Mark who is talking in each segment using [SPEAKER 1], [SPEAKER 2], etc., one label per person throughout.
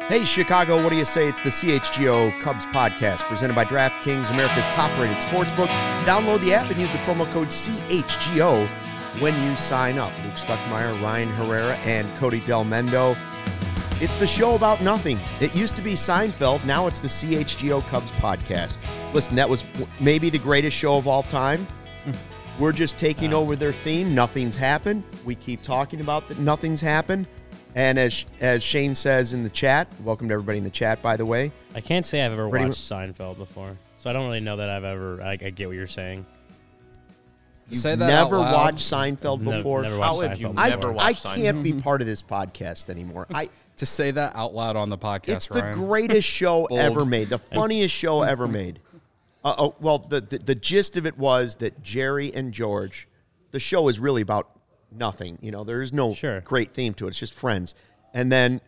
[SPEAKER 1] Hey, Chicago, what do you say? It's the CHGO Cubs podcast presented by DraftKings, America's top-rated sportsbook. Download the app and use the promo code CHGO when you sign up. Luke Stuckmeyer, Ryan Herrera, and Cody Del Mendo. It's the show about nothing. It used to be Seinfeld. Now it's the CHGO Cubs podcast. Listen, that was maybe the greatest show of all time. We're just taking over their theme. Nothing's happened. We keep talking about that nothing's happened. And as Shane says in the chat, welcome to everybody in the chat, by the way.
[SPEAKER 2] I can't say I've ever watched Seinfeld before, so I don't really know that I've ever. I get what you're saying.
[SPEAKER 1] You've never watched Seinfeld before?
[SPEAKER 2] Never watched Seinfeld before.
[SPEAKER 1] I can't be part of this podcast anymore.
[SPEAKER 3] To say that out loud on the podcast,
[SPEAKER 1] it's the greatest show ever made, the funniest show ever made. Well, the gist of it was that Jerry and George, the show is really about nothing. You know, there is no great theme to it. It's just friends. And then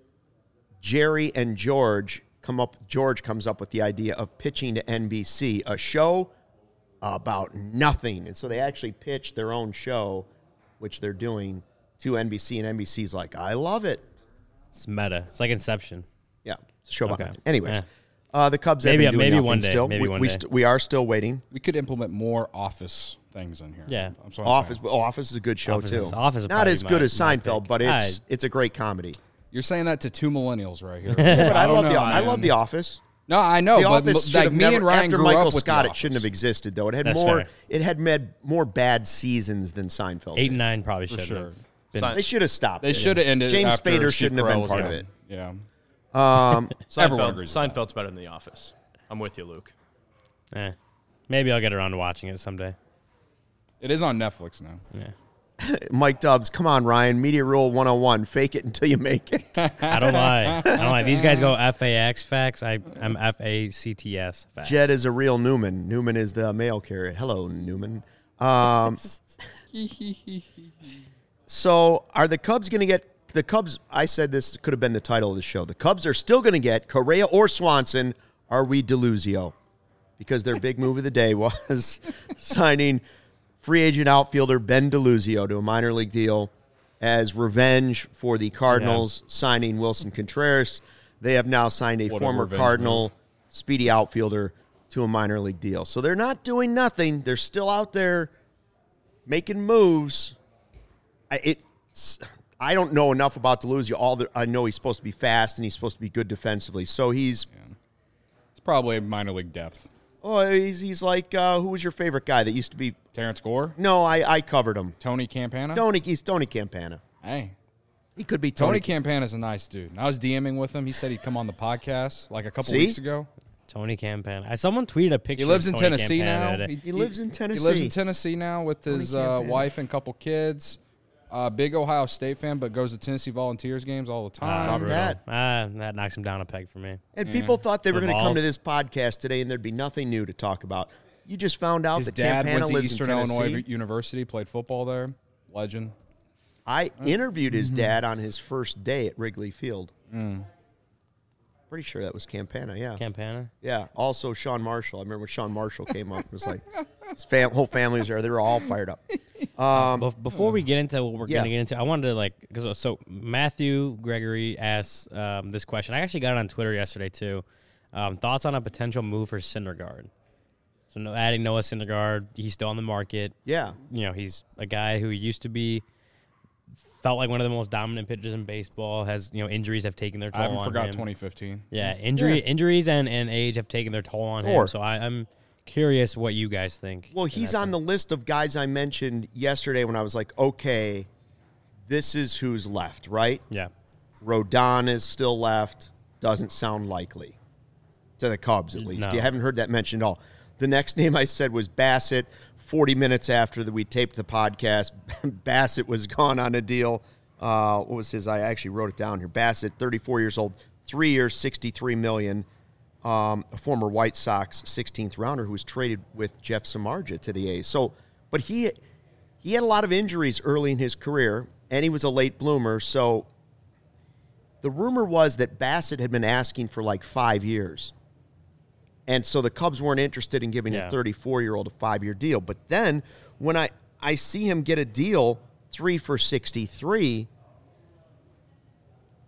[SPEAKER 1] Jerry and George comes up with the idea of pitching to NBC a show about nothing. And so they actually pitched their own show, which they're doing, to NBC, and NBC's like, I love it.
[SPEAKER 2] It's meta. It's like Inception.
[SPEAKER 1] Yeah, it's a show about nothing. Anyways, the Cubs have been doing
[SPEAKER 2] maybe
[SPEAKER 1] nothing
[SPEAKER 2] one day.
[SPEAKER 1] Still.
[SPEAKER 2] Maybe one day.
[SPEAKER 1] We are still waiting.
[SPEAKER 3] We could implement more Office things in here.
[SPEAKER 2] Yeah.
[SPEAKER 1] Office is a good show, too.
[SPEAKER 2] Office is
[SPEAKER 1] not as good as Seinfeld, but it's a great comedy.
[SPEAKER 3] You're saying that to two millennials right here.
[SPEAKER 1] Yeah, but I love The Office.
[SPEAKER 3] No, I know,
[SPEAKER 1] but
[SPEAKER 3] like me and Ryan
[SPEAKER 1] after
[SPEAKER 3] grew
[SPEAKER 1] Michael
[SPEAKER 3] up with
[SPEAKER 1] Scott,
[SPEAKER 3] The
[SPEAKER 1] it shouldn't have existed, though. It had more bad seasons than Seinfeld.
[SPEAKER 2] 8 and 9 probably should have.
[SPEAKER 1] They should have stopped.
[SPEAKER 3] They should have ended.
[SPEAKER 1] James
[SPEAKER 3] after
[SPEAKER 1] Spader
[SPEAKER 3] Steve
[SPEAKER 1] shouldn't have been
[SPEAKER 3] Carell
[SPEAKER 1] part of it.
[SPEAKER 3] Yeah.
[SPEAKER 4] Seinfeld's better than The Office. I'm with you, Luke.
[SPEAKER 2] Maybe I'll get around to watching it someday.
[SPEAKER 3] It is on Netflix now.
[SPEAKER 2] Yeah.
[SPEAKER 1] Mike Dubs, come on, Ryan. Media Rule 101. Fake it until you make it.
[SPEAKER 2] I don't lie. These guys go FAX facts. I'm FACTS facts.
[SPEAKER 1] Jed is a real Newman. Newman is the mail carrier. Hello, Newman. So are the Cubs going to get – the Cubs – I said this could have been the title of the show. The Cubs are still going to get Correa or Swanson. Are we Deluzio? Because their big move of the day was signing – free agent outfielder Ben Deluzio to a minor league deal as revenge for the Cardinals signing Wilson Contreras. They have now signed a former Cardinal speedy outfielder to a minor league deal. So they're not doing nothing. They're still out there making moves. I don't know enough about Deluzio. I know he's supposed to be fast and he's supposed to be good defensively. So he's
[SPEAKER 3] probably minor league depth.
[SPEAKER 1] Oh, he's like, who was your favorite guy that used to be?
[SPEAKER 3] Terrence Gore?
[SPEAKER 1] No, I covered him.
[SPEAKER 3] Tony Campana?
[SPEAKER 1] He's Tony Campana.
[SPEAKER 3] Hey.
[SPEAKER 1] He could be
[SPEAKER 3] Tony Campana's a nice dude. I was DMing with him. He said he'd come on the podcast like a couple weeks ago.
[SPEAKER 2] Tony Campana. Someone tweeted a picture.
[SPEAKER 3] He lives in
[SPEAKER 2] Tony
[SPEAKER 3] Tennessee
[SPEAKER 2] Campana
[SPEAKER 3] now.
[SPEAKER 1] He lives in Tennessee.
[SPEAKER 3] He lives in Tennessee now with his wife and couple kids. Big Ohio State fan, but goes to Tennessee Volunteers games all the time.
[SPEAKER 2] That knocks him down a peg for me.
[SPEAKER 1] And people thought they were going to come to this podcast today and there'd be nothing new to talk about. You just found out that Campana lives in Tennessee.
[SPEAKER 3] His dad went to Eastern Illinois University, played football there. Legend.
[SPEAKER 1] I interviewed his dad on his first day at Wrigley Field. Pretty sure that was Campana, yeah.
[SPEAKER 2] Campana?
[SPEAKER 1] Yeah. Also Sean Marshall. I remember when Sean Marshall came up. It was like his whole family was there. They were all fired up.
[SPEAKER 2] Before we get into what we're going to get into, I wanted to so Matthew Gregory asked this question. I actually got it on Twitter yesterday too. Thoughts on a potential move for Syndergaard? So adding Noah Syndergaard, he's still on the market.
[SPEAKER 1] Yeah.
[SPEAKER 2] You know, he's a guy who used to be felt like one of the most dominant pitchers in baseball. Has injuries have taken their toll on him.
[SPEAKER 3] I haven't forgot 2015.
[SPEAKER 2] Yeah, injuries and age have taken their toll on him. So I'm curious what you guys think.
[SPEAKER 1] Well, he's on the list of guys I mentioned yesterday when I was like, okay, this is who's left, right?
[SPEAKER 2] Yeah.
[SPEAKER 1] Rodon is still left. Doesn't sound likely to the Cubs, at least.
[SPEAKER 2] No.
[SPEAKER 1] You haven't heard that mentioned at all. The next name I said was Bassett. 40 minutes after we taped the podcast, Bassett was gone on a deal. What was his? I actually wrote it down here. Bassett, 34 years old, 3 years, $63 million. A former White Sox 16th rounder who was traded with Jeff Samardzija to the A's. So, but he had a lot of injuries early in his career, and he was a late bloomer. So the rumor was that Bassett had been asking for like 5 years. And so the Cubs weren't interested in giving a 34-year-old a 5-year deal. But then when I see him get a deal 3 for $63,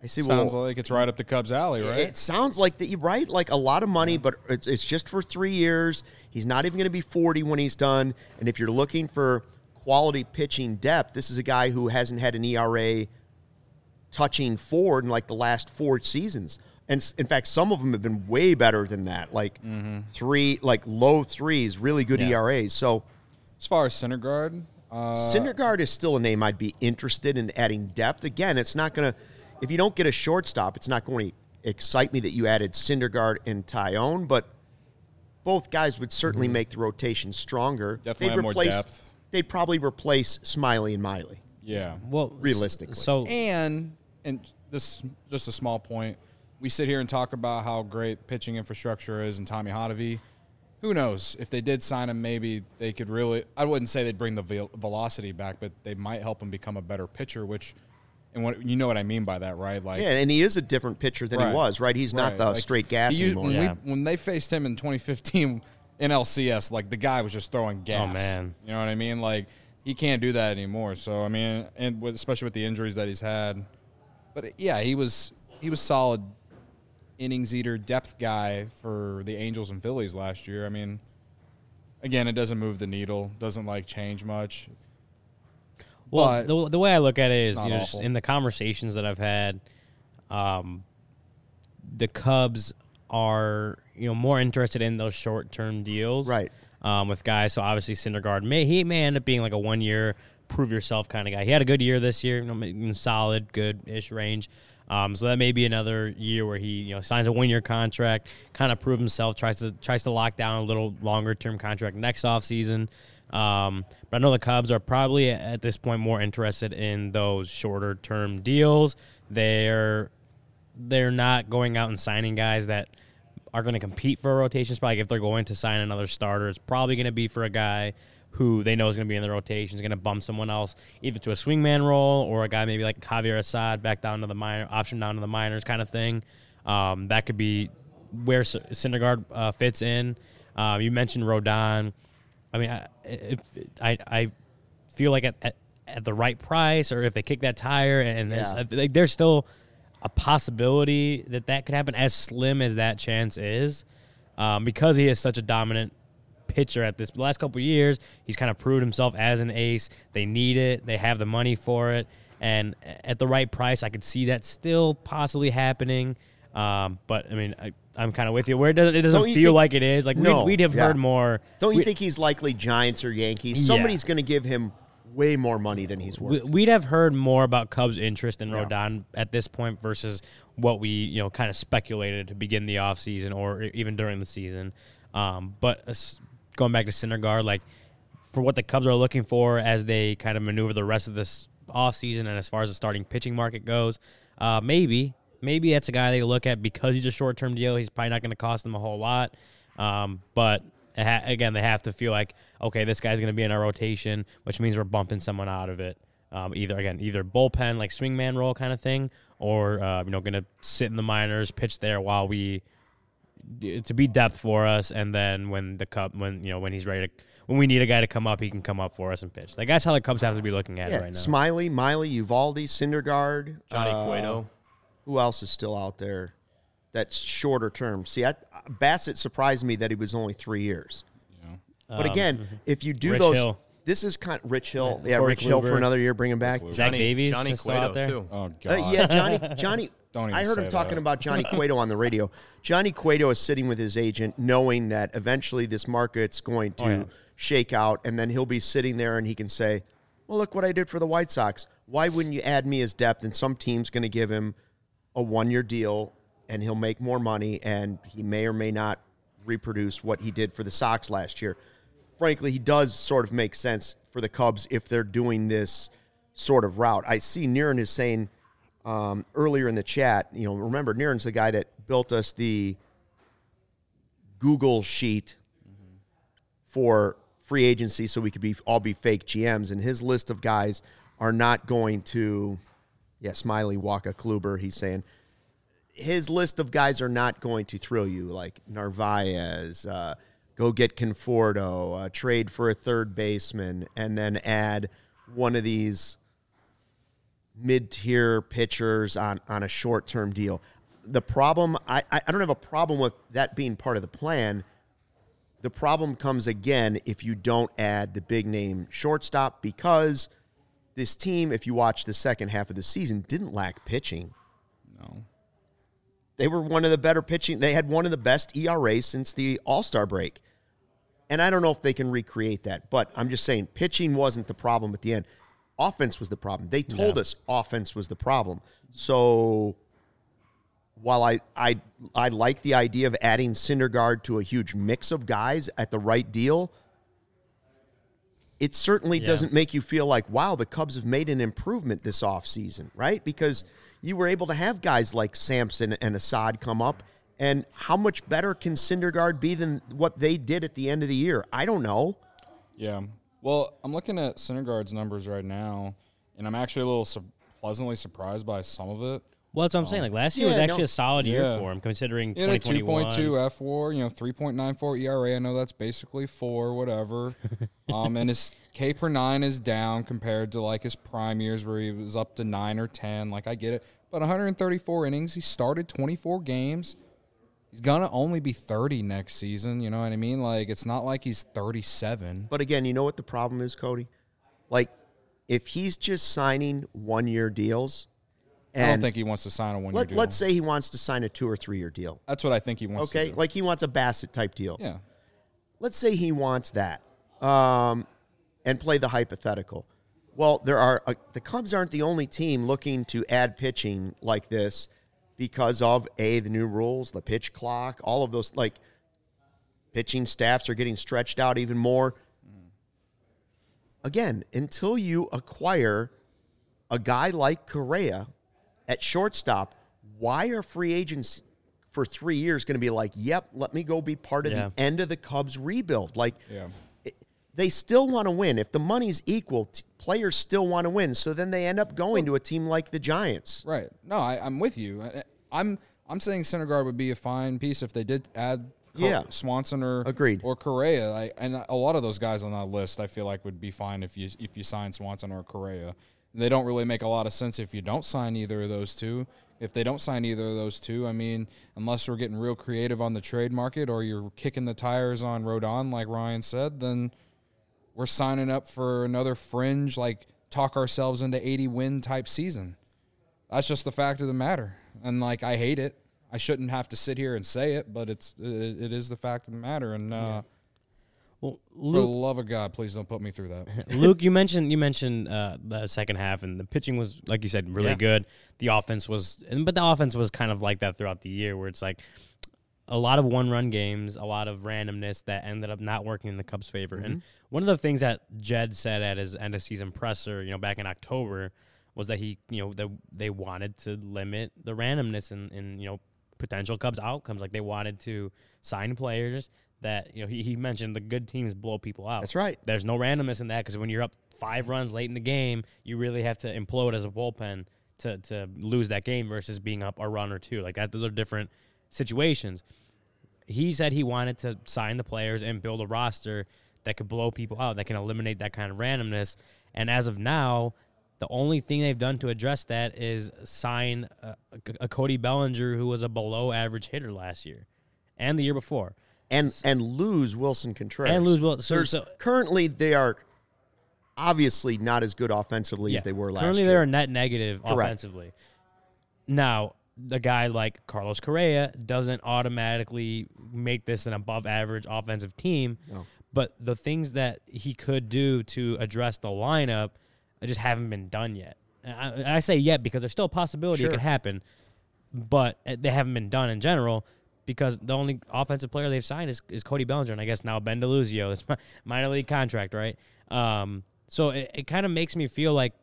[SPEAKER 1] I see.
[SPEAKER 3] Sounds like it's right up the Cubs' alley, right?
[SPEAKER 1] It sounds like that. You're right. Like a lot of money, but it's just for 3 years. He's not even going to be 40 when he's done. And if you're looking for quality pitching depth, this is a guy who hasn't had an ERA touching 4 in like the last 4 seasons. And in fact, some of them have been way better than that. Like 3, like low 3s, really good ERAs. So
[SPEAKER 3] as far as Syndergaard,
[SPEAKER 1] Syndergaard is still a name I'd be interested in adding depth. Again, it's not going to. If you don't get a shortstop, it's not going to excite me that you added Syndergaard and Tyone, but both guys would certainly make the rotation stronger.
[SPEAKER 3] Definitely have more depth.
[SPEAKER 1] They'd probably replace Smiley and Miley.
[SPEAKER 3] Yeah.
[SPEAKER 2] Well,
[SPEAKER 1] realistically.
[SPEAKER 2] So
[SPEAKER 3] and this just a small point. We sit here and talk about how great pitching infrastructure is in Tommy Hotovy. Who knows? If they did sign him, maybe they could really – I wouldn't say they'd bring the velocity back, but they might help him become a better pitcher, which – and what you know what I mean by that, right? Like,
[SPEAKER 1] yeah, and he is a different pitcher than he was, right? He's not the straight gas anymore.
[SPEAKER 3] When they faced him in 2015 in LCS, like the guy was just throwing gas.
[SPEAKER 2] Oh, man.
[SPEAKER 3] You know what I mean? Like he can't do that anymore. So I mean, and especially with the injuries that he's had. But yeah, he was solid innings eater, depth guy for the Angels and Phillies last year. I mean, again, it doesn't move the needle, doesn't change much.
[SPEAKER 2] Well, the way I look at it is, just in the conversations that I've had, the Cubs are more interested in those short-term deals,
[SPEAKER 1] right?
[SPEAKER 2] With guys. So obviously Syndergaard may end up being like a 1-year prove yourself kind of guy. He had a good year this year, in solid, good-ish range. So that may be another year where he signs a 1-year contract, kind of prove himself, tries to lock down a little longer-term contract next offseason. But I know the Cubs are probably at this point more interested in those shorter term deals. They're not going out and signing guys that are going to compete for a rotation spot. Like if they're going to sign another starter, it's probably going to be for a guy who they know is going to be in the rotation, is going to bump someone else either to a swingman role or a guy maybe like Javier Assad back down to the minor, option down to the minors kind of thing. That could be where Syndergaard fits in. You mentioned Rodon. I mean, I feel like at the right price, or if they kick that tire, and this, there's still a possibility that could happen, as slim as that chance is, because he is such a dominant pitcher at the last couple of years. He's kind of proved himself as an ace. They need it. They have the money for it. And at the right price, I could see that still possibly happening. But, I mean, I'm kind of with you. It doesn't feel like it is. Like, we'd have heard more.
[SPEAKER 1] Don't you think he's likely Giants or Yankees? Somebody's going to give him way more money than he's worth.
[SPEAKER 2] We'd have heard more about Cubs' interest in Rodon at this point versus what we, kind of speculated to begin the offseason or even during the season. But going back to Syndergaard, like, for what the Cubs are looking for as they kind of maneuver the rest of this offseason and as far as the starting pitching market goes, maybe that's a guy they look at because he's a short-term deal. He's probably not going to cost them a whole lot. But, again, they have to feel like, okay, this guy's going to be in our rotation, which means we're bumping someone out of it. Either bullpen, like swingman role kind of thing, or, going to sit in the minors, pitch there while to be depth for us, and then when he's ready to, when we need a guy to come up, he can come up for us and pitch. Like, that's how the Cubs have to be looking at it right now.
[SPEAKER 1] Smiley, Miley, Uvalde, Syndergaard,
[SPEAKER 4] Johnny Cueto.
[SPEAKER 1] Who else is still out there that's shorter term? See, Bassett surprised me that he was only 3 years. Yeah. But again, if you do
[SPEAKER 2] Rich
[SPEAKER 1] those,
[SPEAKER 2] Hill.
[SPEAKER 1] This is kind of Rich Hill. Yeah,
[SPEAKER 2] Corey
[SPEAKER 1] Rich Hill
[SPEAKER 2] Kluber.
[SPEAKER 1] for another year, bring him back.
[SPEAKER 2] Zach Davies,
[SPEAKER 4] Johnny
[SPEAKER 2] still out
[SPEAKER 4] Cueto
[SPEAKER 2] there.
[SPEAKER 4] too.
[SPEAKER 3] Oh God.
[SPEAKER 1] Yeah, Johnny.
[SPEAKER 3] Don't even
[SPEAKER 1] I heard him
[SPEAKER 3] say
[SPEAKER 1] talking
[SPEAKER 3] that.
[SPEAKER 1] about Johnny Cueto on the radio. Johnny Cueto is sitting with his agent, knowing that eventually this market's going to shake out, and then he'll be sitting there and he can say, "Well, look what I did for the White Sox. Why wouldn't you add me as depth?" And some team's going to give him a 1-year deal, and he'll make more money, and he may or may not reproduce what he did for the Sox last year. Frankly, he does sort of make sense for the Cubs if they're doing this sort of route. I see Niren is saying earlier in the chat, remember, Niren's the guy that built us the Google sheet for free agency so we could all be fake GMs, and his list of guys are not going to, Smiley, Waka, Kluber, he's saying, his list of guys are not going to thrill you, like Narvaez, go get Conforto, trade for a third baseman, and then add one of these mid-tier pitchers on a short-term deal. The problem, I don't have a problem with that being part of the plan. The problem comes again if you don't add the big-name shortstop, because this team, if you watch the second half of the season, didn't lack pitching.
[SPEAKER 3] No.
[SPEAKER 1] They were one of the better pitching. They had one of the best ERAs since the All-Star break. And I don't know if they can recreate that, but I'm just saying pitching wasn't the problem at the end. Offense was the problem. They told us offense was the problem. So while I like the idea of adding Syndergaard to a huge mix of guys at the right deal, it certainly doesn't make you feel like, wow, the Cubs have made an improvement this offseason, right? Because you were able to have guys like Sampson and Assad come up. And how much better can Syndergaard be than what they did at the end of the year? I don't know.
[SPEAKER 3] Yeah. Well, I'm looking at Syndergaard's numbers right now, and I'm actually a little pleasantly surprised by some of it.
[SPEAKER 2] Well, that's what I'm saying. Like last year was actually a solid year for him, considering 2021.
[SPEAKER 3] 2.2 F4, 3.94 ERA. I know that's basically 4, whatever. And his K per 9 is down compared to like his prime years where he was up to 9 or 10. Like I get it, but 134 innings. He started 24 games. He's going to only be 30 next season, you know what I mean? Like, it's not like he's 37.
[SPEAKER 1] But again, you know what the problem is, Cody? Like, if he's just signing one-year deals, and
[SPEAKER 3] I don't think he wants to sign a one-year deal.
[SPEAKER 1] Let's say he wants to sign a 2 or 3 year deal.
[SPEAKER 3] That's what I think he wants to do.
[SPEAKER 1] Like he wants a Bassett-type deal.
[SPEAKER 3] Yeah.
[SPEAKER 1] Let's say he wants that and play the hypothetical. Well, the Cubs aren't the only team looking to add pitching like this, because of, the new rules, the pitch clock, all of those, like, pitching staffs are getting stretched out even more. Again, until you acquire a guy like Correa at shortstop, why are free agents for 3 years going to be like, yep, let me go be part of the end of the Cubs rebuild? Like, they still want to win. If the money's equal, players still want to win. So then they end up going to a team like the Giants.
[SPEAKER 3] Right. No, I'm with you. I'm saying Syndergaard would be a fine piece if they did add Swanson or Correa. And a lot of those guys on that list I feel like would be fine if you sign Swanson or Correa. They don't really make a lot of sense if you don't sign either of those two. If they don't sign either of those two, I mean, unless we're getting real creative on the trade market or you're kicking the tires on Rodon, like Ryan said, then we're signing up for another fringe, like talk ourselves into 80-win type season. That's just the fact of the matter. And, like, I hate it. I shouldn't have to sit here and say it, but it is the fact of the matter. And
[SPEAKER 2] well,
[SPEAKER 3] Luke, for the love of God, please don't put me through that.
[SPEAKER 2] Luke, you mentioned the second half, and the pitching was, like you said, really good. The offense was, but the offense was kind of like that throughout the year, where it's like a lot of one-run games, a lot of randomness that ended up not working in the Cubs' favor. Mm-hmm. And one of the things that Jed said at his end-of-season presser, back in October, was that they wanted to limit the randomness in potential Cubs outcomes. Like they wanted to sign players that, he mentioned the good teams blow people out.
[SPEAKER 1] That's right.
[SPEAKER 2] There's no randomness in that, because when you're up 5 runs late in the game, you really have to implode as a bullpen to lose that game versus being up a run or 2. Like that, those are different situations. He said he wanted to sign the players and build a roster that could blow people out, that can eliminate that kind of randomness. And as of now, the only thing they've done to address that is sign a Cody Bellinger, who was a below-average hitter last year and the year before.
[SPEAKER 1] And lose Wilson Contreras. So currently, they are obviously not as good offensively as they were last year.
[SPEAKER 2] Currently, they're a net negative offensively. Now, a guy like Carlos Correa doesn't automatically make this an above-average offensive team, but the things that he could do to address the lineup just haven't been done yet. I say yet because there's still a possibility it could happen, but they haven't been done in general, because the only offensive player they've signed is Cody Bellinger, and I guess now Ben DeLuzio. It's minor league contract, right? So it kind of makes me feel like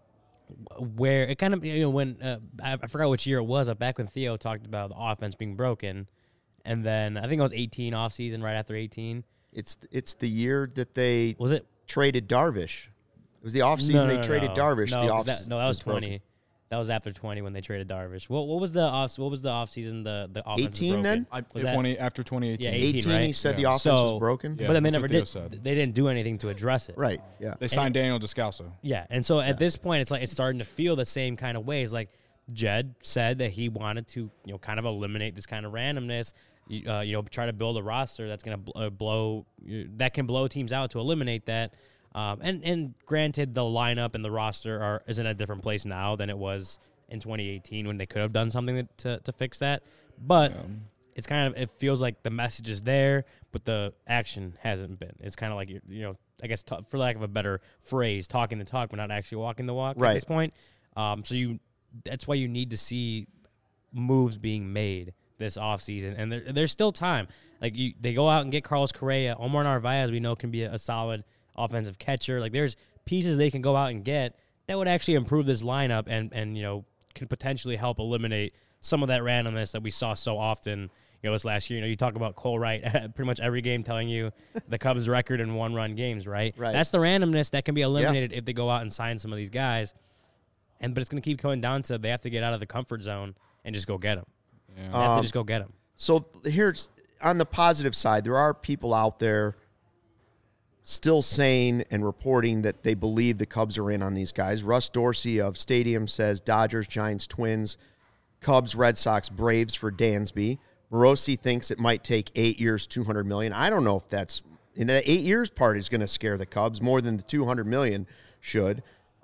[SPEAKER 2] where it kind of, when I forgot which year it was, back when Theo talked about the offense being broken, and then I think it was 18 offseason, right after 18.
[SPEAKER 1] It's the year that they
[SPEAKER 2] traded
[SPEAKER 1] Darvish. It was the offseason they traded Darvish.
[SPEAKER 2] No, that was 20. That was after 20 when they traded Darvish. What was the offseason the offense
[SPEAKER 1] 18 then?
[SPEAKER 2] Was that
[SPEAKER 3] 20 after 2018.
[SPEAKER 2] Yeah, 18, right?
[SPEAKER 1] He said the
[SPEAKER 3] Yeah.
[SPEAKER 1] offense was broken.
[SPEAKER 3] Yeah,
[SPEAKER 2] but then they
[SPEAKER 3] that's
[SPEAKER 2] never
[SPEAKER 3] what Theo
[SPEAKER 2] did.
[SPEAKER 3] said.
[SPEAKER 2] They didn't do anything to address it.
[SPEAKER 1] Right. Yeah.
[SPEAKER 3] They signed Daniel Descalso.
[SPEAKER 2] Yeah, and so at this point, it's like it's starting to feel the same kind of ways. Like Jed said that he wanted to, kind of eliminate this kind of randomness. Try to build a roster that's going to that can blow teams out to eliminate that. And granted, the lineup and the roster is in a different place now than it was in 2018 when they could have done something to fix that. But it's it feels like the message is there, but the action hasn't been. It's kind of like I guess for lack of a better phrase, talking the talk, but not actually walking the walk at this point. That's why you need to see moves being made this offseason, and there's still time. Like they go out and get Carlos Correa, Omar Narvaez. We know can be a solid offensive catcher. Like there's pieces they can go out and get that would actually improve this lineup and can potentially help eliminate some of that randomness that we saw so often. This last year, you talk about Cole Wright pretty much every game telling you the Cubs' record in one-run games, right?
[SPEAKER 1] Right.
[SPEAKER 2] That's the randomness that can be eliminated if they go out and sign some of these guys. But it's going to keep going down to they have to get out of the comfort zone and just go get them.
[SPEAKER 3] Yeah.
[SPEAKER 2] They have to just go get them.
[SPEAKER 1] So here's on the positive side, there are people out there still saying and reporting that they believe the Cubs are in on these guys. Russ Dorsey of Stadium says Dodgers, Giants, Twins, Cubs, Red Sox, Braves for Dansby. Morosi thinks it might take 8 years, $200 million. I don't know if that's in the 8 years part is going to scare the Cubs more than the $200 million should.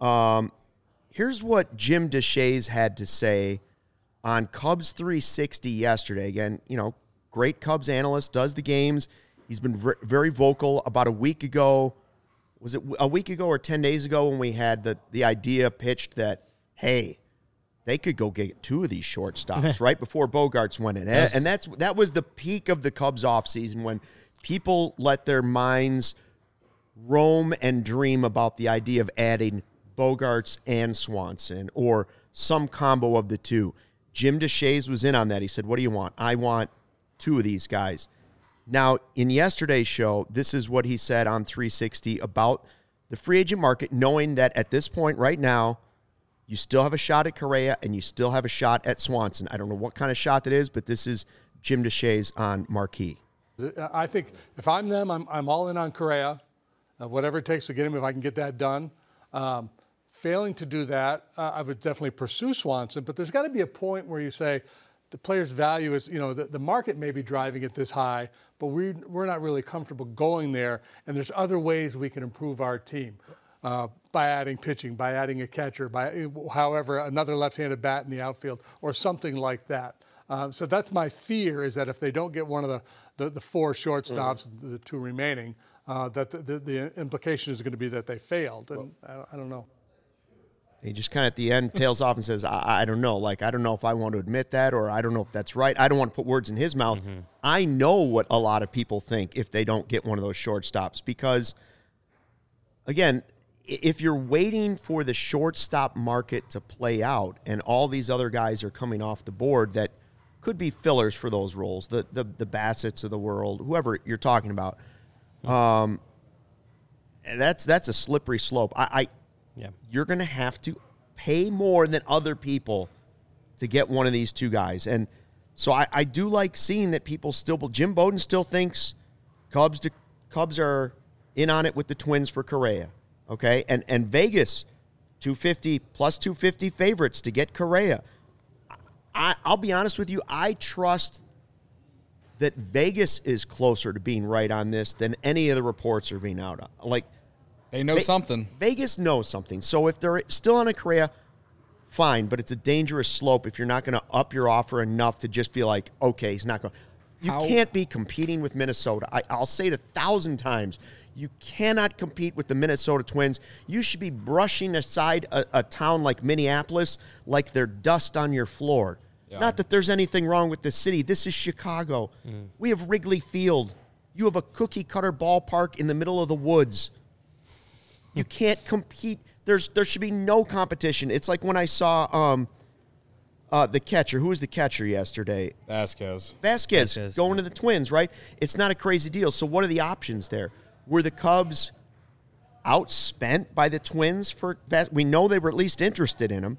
[SPEAKER 1] Here's what Jim Deshaies had to say on Cubs 360 yesterday. Again, great Cubs analyst, does the games. He's been very vocal. About a week ago, was it a week ago or 10 days ago when we had the idea pitched that, hey, they could go get 2 of these shortstops right before Bogarts went in.
[SPEAKER 2] Yes.
[SPEAKER 1] And that was the peak of the Cubs offseason when people let their minds roam and dream about the idea of adding Bogarts and Swanson or some combo of the two. Jim Deshaies was in on that. He said, what do you want? I want 2 of these guys. Now, in yesterday's show, this is what he said on 360 about the free agent market, knowing that at this point right now, you still have a shot at Correa and you still have a shot at Swanson. I don't know what kind of shot that is, but this is Jim Deshaies on Marquee.
[SPEAKER 5] I think if I'm them, I'm all in on Correa, whatever it takes to get him if I can get that done. Failing to do that, I would definitely pursue Swanson, but there's got to be a point where you say the player's value is, the market may be driving it this high, but we're not really comfortable going there, and there's other ways we can improve our team. By adding pitching, by adding a catcher, by however, another left-handed bat in the outfield or something like that. So that's my fear is that if they don't get one of the 4 shortstops, the 2 remaining, that the implication is going to be that they failed. And I don't know.
[SPEAKER 1] He just kind of at the end tails off and says, I don't know. Like, I don't know if I want to admit that or I don't know if that's right. I don't want to put words in his mouth. Mm-hmm. I know what a lot of people think if they don't get one of those shortstops because, again, if you're waiting for the shortstop market to play out and all these other guys are coming off the board that could be fillers for those roles, the Bassetts of the world, whoever you're talking about, that's a slippery slope. You're going to have to pay more than other people to get one of these 2 guys. And so I do like seeing that people still – Jim Bowden still thinks Cubs are in on it with the Twins for Correa. Okay, and Vegas, 250 plus 250 favorites to get Correa. I'll be honest with you, I trust that Vegas is closer to being right on this than any of the reports are being out on. Like,
[SPEAKER 3] they know something.
[SPEAKER 1] Vegas knows something. So if they're still on a Correa, fine, but it's a dangerous slope if you're not going to up your offer enough to just be like, okay, he's not going. You can't be competing with Minnesota. I'll say it 1,000 times. You cannot compete with the Minnesota Twins. You should be brushing aside a town like Minneapolis like they're dust on your floor. Yeah. Not that there's anything wrong with the city. This is Chicago. We have Wrigley Field. You have a cookie-cutter ballpark in the middle of the woods. You can't compete. There should be no competition. It's like when I saw the catcher. Who was the catcher yesterday?
[SPEAKER 3] Vasquez
[SPEAKER 1] going to the Twins, right? It's not a crazy deal. So what are the options there? Were the Cubs outspent by the Twins for – we know they were at least interested in him.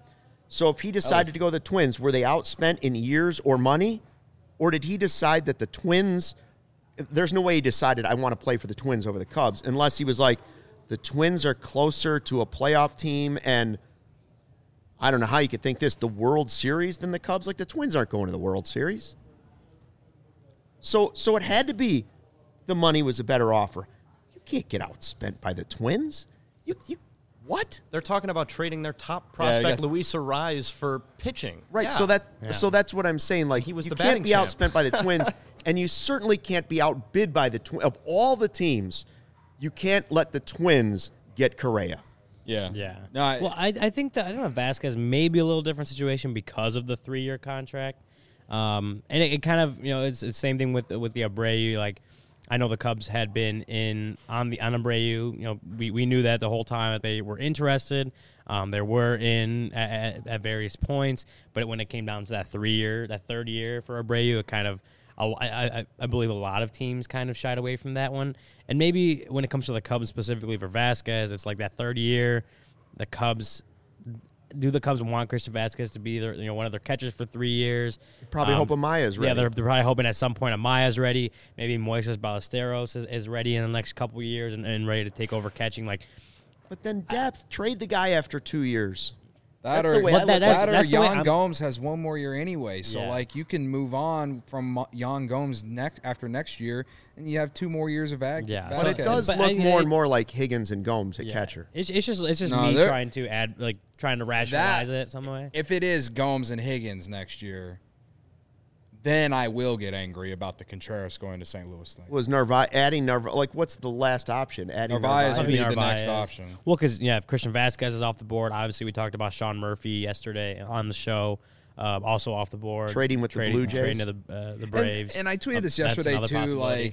[SPEAKER 1] So if he decided to go to the Twins, were they outspent in years or money? Or did he decide that the Twins, there's no way he decided I want to play for the Twins over the Cubs, unless he was like, the Twins are closer to a playoff team, and I don't know how you could think this, the World Series than the Cubs. Like, the Twins aren't going to the World Series. So it had to be the money was a better offer. You can't get outspent by the Twins. You what?
[SPEAKER 4] They're talking about trading their top prospect, Luis Arraez, for pitching.
[SPEAKER 1] Right.
[SPEAKER 4] Yeah.
[SPEAKER 1] So that's what I'm saying. Like,
[SPEAKER 4] He was
[SPEAKER 1] you
[SPEAKER 4] the
[SPEAKER 1] can't
[SPEAKER 4] batting
[SPEAKER 1] be
[SPEAKER 4] champ.
[SPEAKER 1] outspent by the Twins, and you certainly can't be outbid by the Twins. Of all the teams, you can't let the Twins get Correa.
[SPEAKER 3] Yeah.
[SPEAKER 2] Yeah.
[SPEAKER 3] No,
[SPEAKER 2] I think that, I don't know, Vasquez may be a little different situation because of the 3-year contract. And it kind of, it's the same thing with the Abreu. Like, I know the Cubs had been on Abreu. We knew that the whole time that they were interested. There were at various points, but when it came down to that third year for Abreu, it kind of, I believe a lot of teams kind of shied away from that one. And maybe when it comes to the Cubs specifically for Vasquez, it's like that third year, do the Cubs want Christian Vasquez to be one of their catchers for 3 years?
[SPEAKER 1] Probably hope Amaya's ready.
[SPEAKER 2] Yeah, they're probably hoping at some point Amaya's ready. Maybe Moises Ballesteros is ready in the next couple of years and ready to take over catching.
[SPEAKER 1] But then depth, trade the guy after 2 years.
[SPEAKER 3] That's
[SPEAKER 1] the way I look at it.
[SPEAKER 2] that's the way
[SPEAKER 3] Yan
[SPEAKER 2] I'm-
[SPEAKER 3] Gomes has one more year anyway, so
[SPEAKER 2] Yeah.
[SPEAKER 3] like you can move on from Yan Gomes after next year, and you have 2 more years of ag.
[SPEAKER 2] Yeah.
[SPEAKER 1] But it does
[SPEAKER 2] But
[SPEAKER 1] look
[SPEAKER 2] I-
[SPEAKER 1] more
[SPEAKER 2] it-
[SPEAKER 1] and more like Higgins and Gomes at
[SPEAKER 2] Yeah.
[SPEAKER 1] catcher.
[SPEAKER 2] It's just
[SPEAKER 3] No,
[SPEAKER 2] me
[SPEAKER 3] they're-
[SPEAKER 2] trying to rationalize it some way.
[SPEAKER 3] If it is Gomes and Higgins next year, then I will get angry about the Contreras going to St. Louis thing.
[SPEAKER 1] Was adding Narvaez, like, what's the last option? Adding
[SPEAKER 3] Narvaez would be the
[SPEAKER 2] Narvaez.
[SPEAKER 3] next option.
[SPEAKER 2] Well, because if Christian Vasquez is off the board, obviously we talked about Sean Murphy yesterday on the show, also off the board.
[SPEAKER 1] Trading with the Blue Jays.
[SPEAKER 2] Trading to the Braves.
[SPEAKER 3] And I tweeted this
[SPEAKER 2] That's
[SPEAKER 3] yesterday
[SPEAKER 2] another
[SPEAKER 3] too.
[SPEAKER 2] possibility.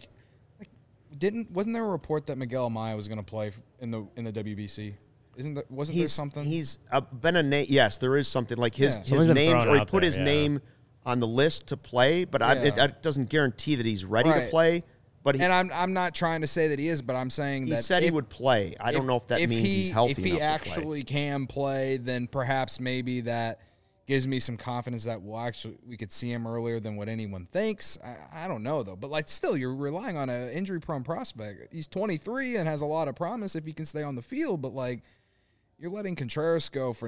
[SPEAKER 3] Wasn't there a report that Miguel Amaya was going to play in the WBC? Wasn't there something?
[SPEAKER 1] He's been a name. Yes, there is something like his
[SPEAKER 3] Yeah.
[SPEAKER 1] his
[SPEAKER 2] Something's been
[SPEAKER 1] name,
[SPEAKER 2] thrown
[SPEAKER 1] or he
[SPEAKER 2] out
[SPEAKER 1] put
[SPEAKER 2] there,
[SPEAKER 1] his
[SPEAKER 2] yeah.
[SPEAKER 1] name on the list to play. But
[SPEAKER 3] Yeah.
[SPEAKER 1] it doesn't guarantee that he's ready to
[SPEAKER 3] Right.
[SPEAKER 1] play. But
[SPEAKER 3] and I'm not trying to say that he is, but I'm saying
[SPEAKER 1] he
[SPEAKER 3] that
[SPEAKER 1] said he would play. I don't know if that means he's healthy
[SPEAKER 3] If he
[SPEAKER 1] enough to
[SPEAKER 3] actually can play, then perhaps maybe that gives me some confidence that we could see him earlier than what anyone thinks. I don't know though, but still, you're relying on an injury-prone prospect. He's 23 and has a lot of promise if he can stay on the field, but you're letting Contreras go for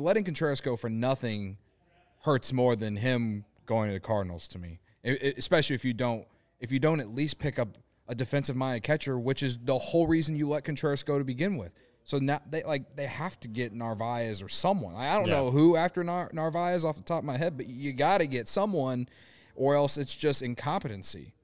[SPEAKER 3] nothing hurts more than him going to the Cardinals to me. Especially if you don't at least pick up a defensive-minded catcher, which is the whole reason you let Contreras go to begin with. So now they have to get Narvaez or someone. I don't know who after Narvaez off the top of my head, but you got to get someone, or else it's just incompetency.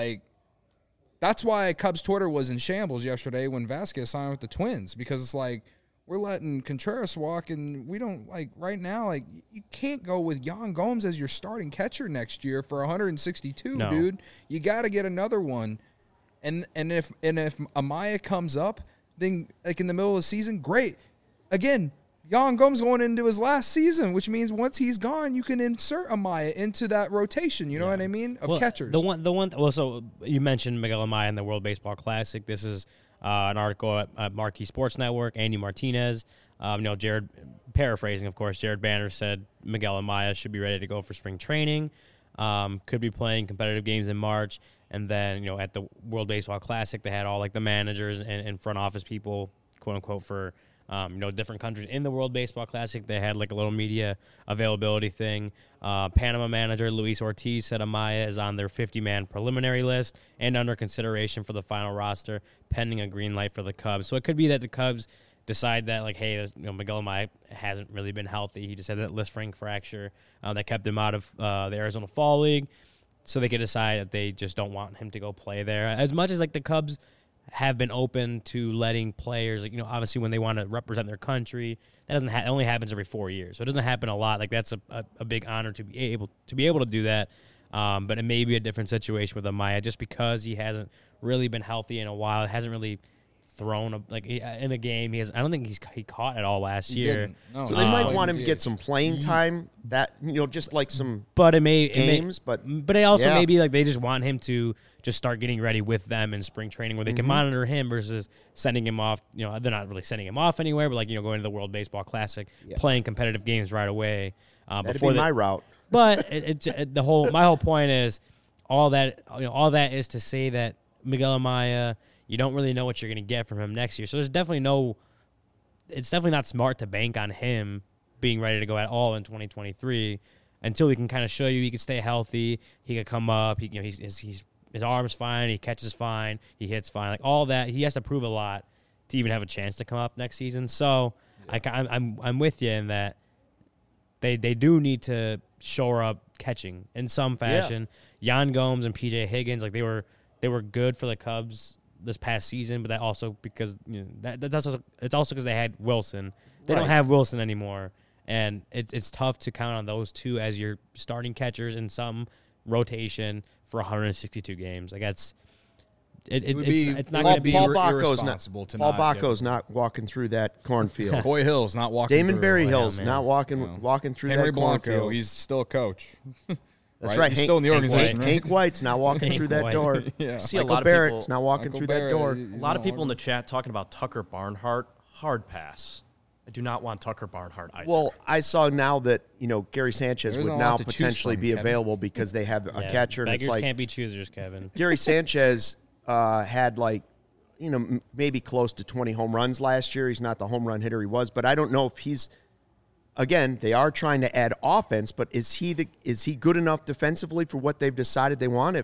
[SPEAKER 3] That's why Cubs Twitter was in shambles yesterday when Vasquez signed with the Twins, because it's we're letting Contreras walk, and we don't right now. You can't go with Yan Gomes as your starting catcher next year for 162,
[SPEAKER 2] No.
[SPEAKER 3] dude. You got to get another one, and if Amaya comes up, then in the middle of the season, great. Again, Yan Gomes going into his last season, which means once he's gone, you can insert Amaya into that rotation. You know what I mean of catchers.
[SPEAKER 2] The one. Well, so you mentioned Miguel Amaya in the World Baseball Classic. This is an article at Marquee Sports Network. Andy Martinez, Jared, paraphrasing, of course, Jared Banner said Miguel Amaya should be ready to go for spring training. Could be playing competitive games in March. And then, at the World Baseball Classic, they had all the managers and front office people, quote unquote, for different countries in the World Baseball Classic. They had a little media availability thing. Panama manager Luis Ortiz said Amaya is on their 50-man preliminary list and under consideration for the final roster, pending a green light for the Cubs. So it could be that the Cubs decide that, hey, Miguel Amaya hasn't really been healthy. He just had that Lisfranc fracture that kept him out of the Arizona Fall League. So they could decide that they just don't want him to go play there. As much as the Cubs have been open to letting players, obviously when they want to represent their country, that doesn't it only happens every 4 years, so it doesn't happen a lot. That's a big honor to be able to do that. But it may be a different situation with Amaya just because he hasn't really been healthy in a while. It hasn't really thrown in a game. I don't think he caught at all last year.
[SPEAKER 3] No,
[SPEAKER 1] So they might want him to get some playing time. That just like some
[SPEAKER 2] but
[SPEAKER 1] games. But
[SPEAKER 2] they also maybe like they just want him to just start getting ready with them in spring training where they can monitor him versus sending him off. They're not really sending him off anywhere, but like going to the World Baseball Classic, playing competitive games right away.
[SPEAKER 1] That'd be my route.
[SPEAKER 2] But my whole point is all that is to say that Miguel Amaya, you don't really know what you're going to get from him next year. So it's definitely not smart to bank on him being ready to go at all in 2023 until we can kind of show you he can stay healthy, he can come up, his arm's fine, he catches fine, he hits fine, like all that. He has to prove a lot to even have a chance to come up next season. So I'm with you in that they do need to shore up catching in some fashion. Yan Gomes and PJ Higgins, like they were good for the Cubs this past season, but that also because it's also because they had Wilson. They don't have Wilson anymore, and it's tough to count on those two as your starting catchers in some rotation for 162 games. Like it's not going to be
[SPEAKER 3] irresponsible to
[SPEAKER 1] Paul Bacco's not walking through that cornfield.
[SPEAKER 3] Coy Hill's not walking.
[SPEAKER 1] Damon
[SPEAKER 3] through.
[SPEAKER 1] Berry Hill's not walking through
[SPEAKER 3] Henry
[SPEAKER 1] that
[SPEAKER 3] Blanco,
[SPEAKER 1] cornfield.
[SPEAKER 3] he's still a coach.
[SPEAKER 1] That's right.
[SPEAKER 3] He's still in the organization.
[SPEAKER 1] Hank White's not walking through that door.
[SPEAKER 4] See
[SPEAKER 1] Michael
[SPEAKER 4] a lot
[SPEAKER 1] Barrett's
[SPEAKER 4] of people
[SPEAKER 1] not walking through that door.
[SPEAKER 4] A lot of people in the chat talking about Tucker Barnhart. Hard pass. I do not want Tucker Barnhart either.
[SPEAKER 1] Well, I saw now that Gary Sanchez would now potentially be available because they have a catcher. And
[SPEAKER 2] beggars
[SPEAKER 1] it's like
[SPEAKER 2] can't be choosers, Kevin.
[SPEAKER 1] Gary Sanchez had maybe close to 20 home runs last year. He's not the home run hitter he was, but I don't know if he's. Again, they are trying to add offense, but is he good enough defensively for what they've decided they want?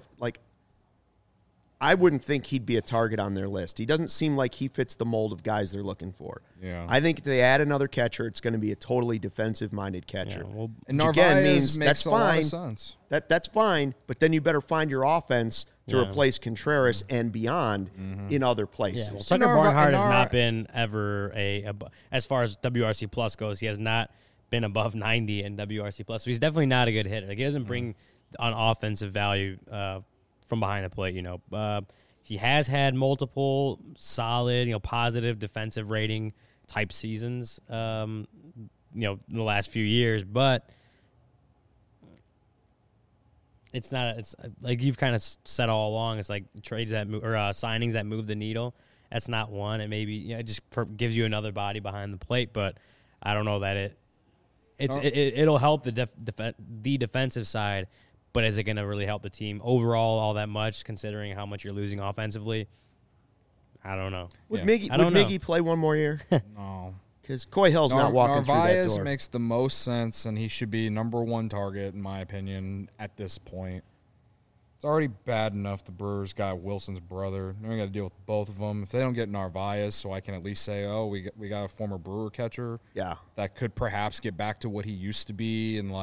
[SPEAKER 1] I wouldn't think he'd be a target on their list. He doesn't seem like he fits the mold of guys they're looking for.
[SPEAKER 3] Yeah.
[SPEAKER 1] I think if they add another catcher, it's going to be a totally defensive-minded catcher.
[SPEAKER 2] Yeah, well,
[SPEAKER 3] And
[SPEAKER 1] which
[SPEAKER 3] Narvaez
[SPEAKER 1] again means
[SPEAKER 3] makes
[SPEAKER 1] that's
[SPEAKER 3] a lot
[SPEAKER 1] fine.
[SPEAKER 3] of sense.
[SPEAKER 1] That's fine, but then you better find your offense to replace Contreras and beyond in other places.
[SPEAKER 2] Yeah, well, Tucker Barnhart has not been ever as far as WRC Plus goes, he has not been above 90 in WRC Plus. So he's definitely not a good hitter. Like, he doesn't bring on offensive value from behind the plate. He has had multiple solid, positive defensive rating type seasons, in the last few years, but it's not. It's like you've kind of said all along. It's like trades that move, or signings that move the needle. That's not one. It maybe it just gives you another body behind the plate, but I don't know that it'll help the defensive side. But is it going to really help the team overall all that much, considering how much you're losing offensively? I don't know.
[SPEAKER 1] Would Miggy play one more year?
[SPEAKER 3] No.
[SPEAKER 1] Because Coy Hill's not walking through that
[SPEAKER 3] Narvaez
[SPEAKER 1] door.
[SPEAKER 3] makes the most sense, and he should be number one target, in my opinion, at this point. It's already bad enough the Brewers got Wilson's brother. Now we got to deal with both of them. If they don't get Narvaez, so I can at least say, we got a former Brewer catcher.
[SPEAKER 1] Yeah.
[SPEAKER 3] That could perhaps get back to what he used to be, and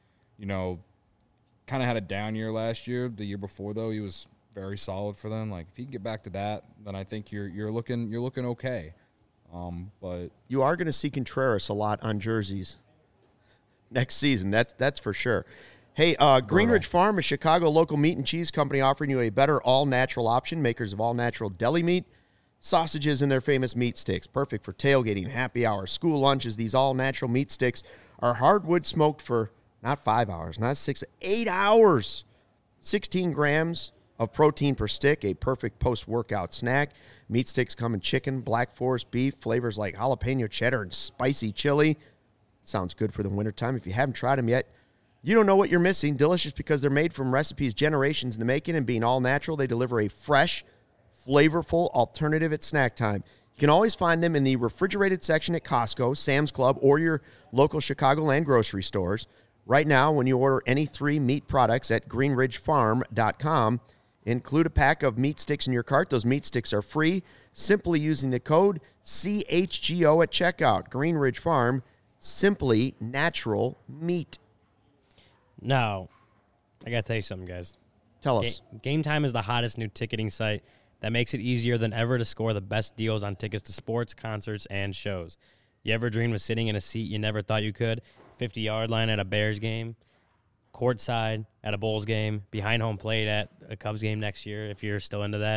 [SPEAKER 3] kind of had a down year last year. The year before, though, he was very solid for them. Like, if he can get back to that, then I think you're looking okay. But
[SPEAKER 1] you are going to see Contreras a lot on jerseys next season. That's for sure. Hey, Greenridge Farm, a Chicago local meat and cheese company, offering you a better all-natural option. Makers of all-natural deli meat, sausages, and their famous meat sticks. Perfect for tailgating, happy hour, school lunches. These all-natural meat sticks are hardwood smoked for not 5 hours, not 6, 8 hours. 16 grams of protein per stick, a perfect post-workout snack. Meat sticks come in chicken, Black Forest beef, flavors like jalapeno cheddar and spicy chili. Sounds good for the wintertime. If you haven't tried them yet, you don't know what you're missing. Delicious because they're made from recipes generations in the making, and being all natural, they deliver a fresh, flavorful alternative at snack time. You can always find them in the refrigerated section at Costco, Sam's Club, or your local Chicagoland grocery stores. Right now, when you order any 3 meat products at greenridgefarm.com, include a pack of meat sticks in your cart. Those meat sticks are free, simply using the code CHGO at checkout. Greenridge Farm, simply natural meat.
[SPEAKER 2] Now, I got to tell you something, guys.
[SPEAKER 1] Tell us.
[SPEAKER 2] Game Time is the hottest new ticketing site that makes it easier than ever to score the best deals on tickets to sports, concerts, and shows. You ever dreamed of sitting in a seat you never thought you could? 50-yard line at a Bears game, courtside at a Bulls game, behind home plate at a Cubs game next year, if you're still into that.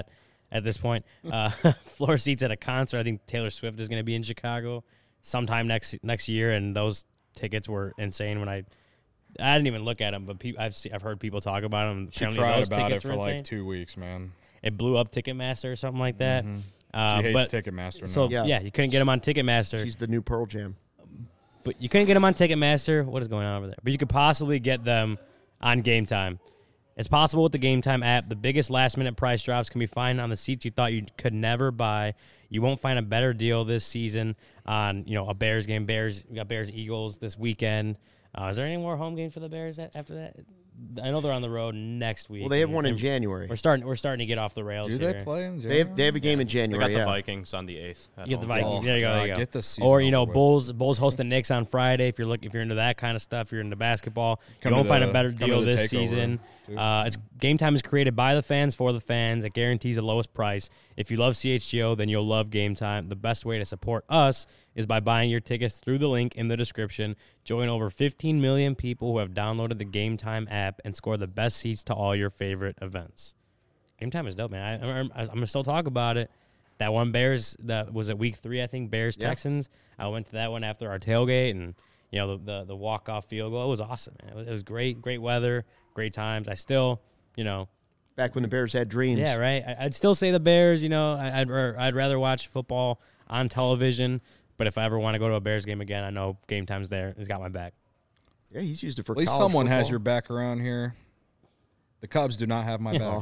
[SPEAKER 2] at this point. Floor seats at a concert. I think Taylor Swift is going to be in Chicago sometime next year, and those tickets were insane. When I didn't even look at them, but I've heard people talk about them.
[SPEAKER 3] She cried about it for like 2 weeks, man.
[SPEAKER 2] It blew up Ticketmaster or something like that.
[SPEAKER 3] Mm-hmm. She hates Ticketmaster now.
[SPEAKER 2] So, yeah, you couldn't get them on Ticketmaster.
[SPEAKER 1] She's the new Pearl Jam.
[SPEAKER 2] But you couldn't get them on Ticketmaster. What is going on over there? But you could possibly get them on Game Time. It's possible with the Game Time app. The biggest last-minute price drops can be found on the seats you thought you could never buy. You won't find a better deal this season on a Bears game. We got Bears-Eagles this weekend. Is there any more home games for the Bears after that? I know they're on the road next week.
[SPEAKER 1] Well, they have one in January.
[SPEAKER 2] We're starting to get off the rails.
[SPEAKER 3] Do
[SPEAKER 2] here.
[SPEAKER 3] they play in January?
[SPEAKER 1] They have a game in January.
[SPEAKER 4] They got the Vikings on the 8th.
[SPEAKER 2] You get the Vikings. There you go. There you go.
[SPEAKER 3] Get the season
[SPEAKER 2] or
[SPEAKER 3] over with.
[SPEAKER 2] Bulls host the Knicks on Friday. If you're into that kind of stuff, if you're into basketball, you won't find a better deal this season. It's Game Time is created by the fans for the fans. It guarantees the lowest price. If you love CHGO, then you'll love Game Time. The best way to support us is by buying your tickets through the link in the description. Join over 15 million people who have downloaded the Game Time app and score the best seats to all your favorite events. Game Time is dope, man. I'm going to still talk about it. That one Bears, that was at week 3, I think, Bears-Texans. Yeah. I went to that one after our tailgate, and, the walk-off field goal. It was awesome, man. It was great weather, great times. I still,
[SPEAKER 1] Back when the Bears had dreams.
[SPEAKER 2] Yeah, right. I'd still say the Bears, I'd rather watch football on television. But if I ever want to go to a Bears game again, I know Game Time's there. He's got my back.
[SPEAKER 1] Yeah, he's used it for
[SPEAKER 3] at least
[SPEAKER 1] college
[SPEAKER 3] someone
[SPEAKER 1] football.
[SPEAKER 3] has your back around here. The Cubs do not have my back.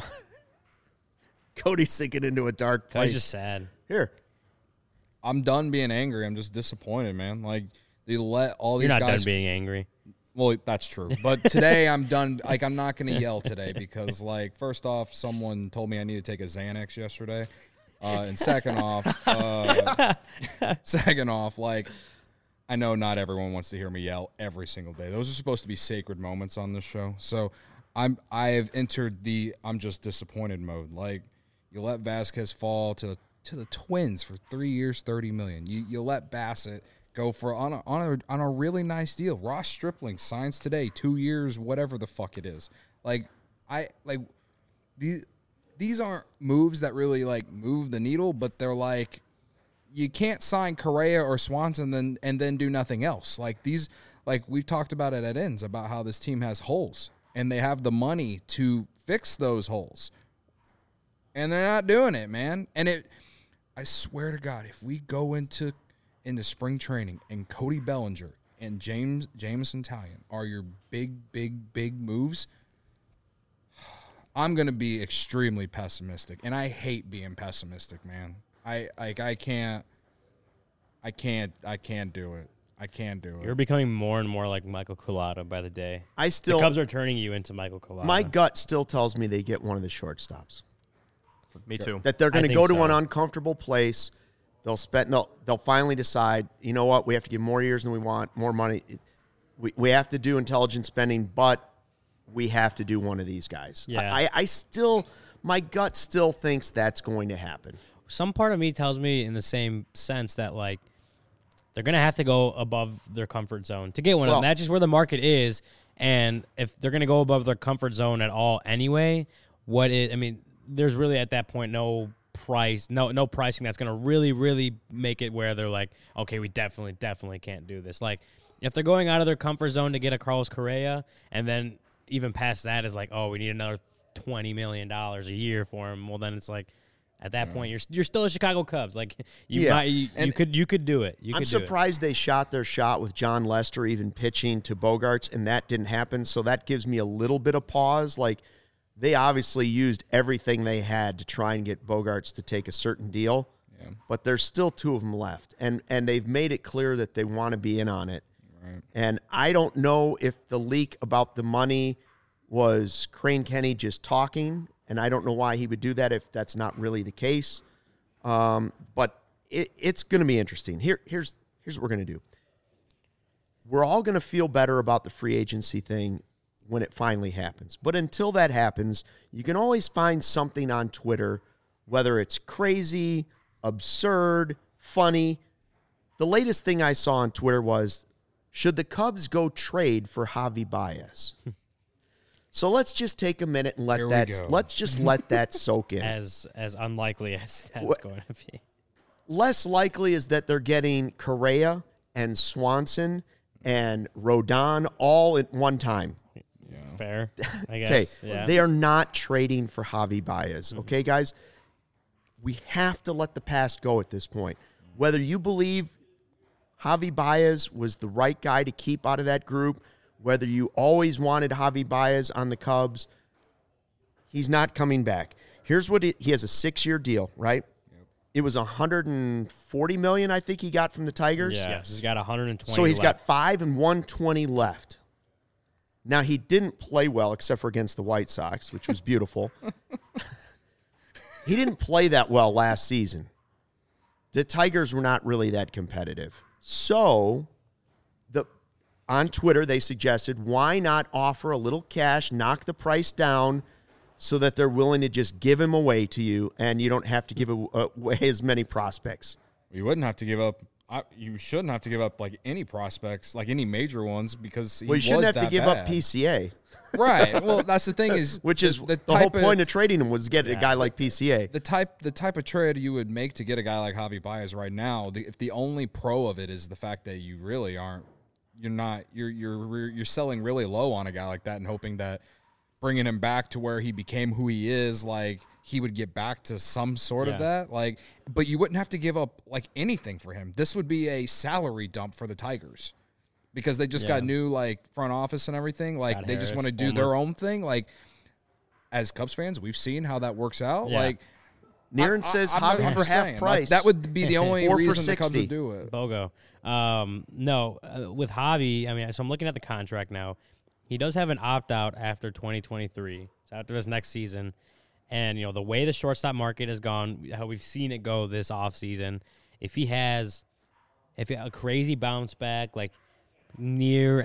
[SPEAKER 1] Cody's sinking into a dark place.
[SPEAKER 2] He's just sad.
[SPEAKER 1] Here.
[SPEAKER 3] I'm done being angry. I'm just disappointed, man. Like, they let all these
[SPEAKER 2] You're
[SPEAKER 3] guys...
[SPEAKER 2] not done being angry.
[SPEAKER 3] Well, that's true. But today I'm done. Like, I'm not going to yell today because, like, first off, someone told me I need to take a Xanax yesterday. And second off, like, I know not everyone wants to hear me yell every single day. Those are supposed to be sacred moments on this show. So I have entered the I'm just disappointed mode. Like, you let Vasquez fall to the Twins for 3 years, $30 million. You let Bassett go for on a really nice deal. Ross Stripling signs today, 2 years, whatever the fuck it is. These aren't moves that really like move the needle, but they're like, you can't sign Correa or Swanson and then do nothing else. Like these, like we've talked about it at ends about how this team has holes and they have the money to fix those holes, and they're not doing it, man. And I swear to God, if we go into spring training and Cody Bellinger and Jameson Taillon are your big moves, I'm going to be extremely pessimistic, and I hate being pessimistic, man. I can't do it. I can't do it.
[SPEAKER 2] You're becoming more and more like Michael Collado by the day. The Cubs are turning you into Michael Collado.
[SPEAKER 1] My gut still tells me they get one of the shortstops.
[SPEAKER 4] Me too.
[SPEAKER 1] That they're going to go to an uncomfortable place. They'll finally decide, you know what, we have to give more years than we want, more money. We have to do intelligent spending, but we have to do one of these guys.
[SPEAKER 2] Yeah.
[SPEAKER 1] My gut still thinks that's going to happen.
[SPEAKER 2] Some part of me tells me in the same sense that, like, they're going to have to go above their comfort zone to get one of them. That's just where the market is. And if they're going to go above their comfort zone at all anyway, there's really at that point no pricing that's going to really make it where they're like, okay, we definitely can't do this. Like, if they're going out of their comfort zone to get a Carlos Correa, and then even past that is like, oh, we need another $20 million a year for him. Well, then it's like, at that point, you're still a Chicago Cubs. Like you could do it.
[SPEAKER 1] I'm surprised they shot their shot with John Lester even pitching to Bogarts, and that didn't happen. So that gives me a little bit of pause. Like, they obviously used everything they had to try and get Bogarts to take a certain deal, but there's still 2 of them left, and they've made it clear that they want to be in on it. Right. And I don't know if the leak about the money was Crane Kenny just talking, and I don't know why he would do that if that's not really the case. But it's going to be interesting. Here's what we're going to do. We're all going to feel better about the free agency thing when it finally happens. But until that happens, you can always find something on Twitter, whether it's crazy, absurd, funny. The latest thing I saw on Twitter was, should the Cubs go trade for Javi Baez? So let's just take a minute and
[SPEAKER 3] Here we go.
[SPEAKER 1] let's just let that soak in.
[SPEAKER 2] As unlikely as that's going to be.
[SPEAKER 1] Less likely is that they're getting Correa and Swanson and Rodon all at one time.
[SPEAKER 2] Fair, I
[SPEAKER 1] Okay,
[SPEAKER 2] guess. Yeah.
[SPEAKER 1] they are not trading for Javi Baez. Okay, guys, we have to let the past go at this point. Whether you believe Javi Baez was the right guy to keep out of that group, whether you always wanted Javi Baez on the Cubs, he's not coming back. Here's what he has a 6-year deal, right? It was $140 million, I think he got from the Tigers.
[SPEAKER 2] Yeah, he's got 120.
[SPEAKER 1] So he's
[SPEAKER 2] left.
[SPEAKER 1] got 5 and 120 left. Now, he didn't play well except for against the White Sox, which was beautiful. He didn't play that well last season. The Tigers were not really that competitive. So, on Twitter, they suggested, why not offer a little cash, knock the price down so that they're willing to just give him away to you and you don't have to give away as many prospects.
[SPEAKER 3] You wouldn't have to give up. You shouldn't have to give up like any prospects, like any major ones, because
[SPEAKER 1] Well, you shouldn't have to give up PCA.
[SPEAKER 3] Right. Well, that's the thing is,
[SPEAKER 1] Which is the whole point of trading him was to get a guy like PCA.
[SPEAKER 3] The type of trade you would make to get a guy like Javi Baez right now. If the only pro of it is the fact that you really aren't, you're selling really low on a guy like that and hoping that bringing him back to where he became who he is, like he would get back to some sort of that. Like, but you wouldn't have to give up like anything for him. This would be a salary dump for the Tigers because they just got new like front office and everything. Like
[SPEAKER 2] Scott
[SPEAKER 3] they just
[SPEAKER 2] Harris,
[SPEAKER 3] want to do their own thing. Like as Cubs fans, we've seen how that works out.
[SPEAKER 2] Yeah.
[SPEAKER 3] Like
[SPEAKER 1] Niren says
[SPEAKER 3] I'm
[SPEAKER 1] Javi
[SPEAKER 3] just
[SPEAKER 1] for half
[SPEAKER 3] saying,
[SPEAKER 1] price.
[SPEAKER 3] That would be the only
[SPEAKER 1] 4 for
[SPEAKER 3] reason the Cubs
[SPEAKER 1] 60.
[SPEAKER 3] would do it.
[SPEAKER 2] BOGO. No, with Javi, I mean, so I'm looking at the contract now. He does have an opt-out after 2023, so after this next season. And, the way the shortstop market has gone, how we've seen it go this offseason, if he has a crazy bounce back, like near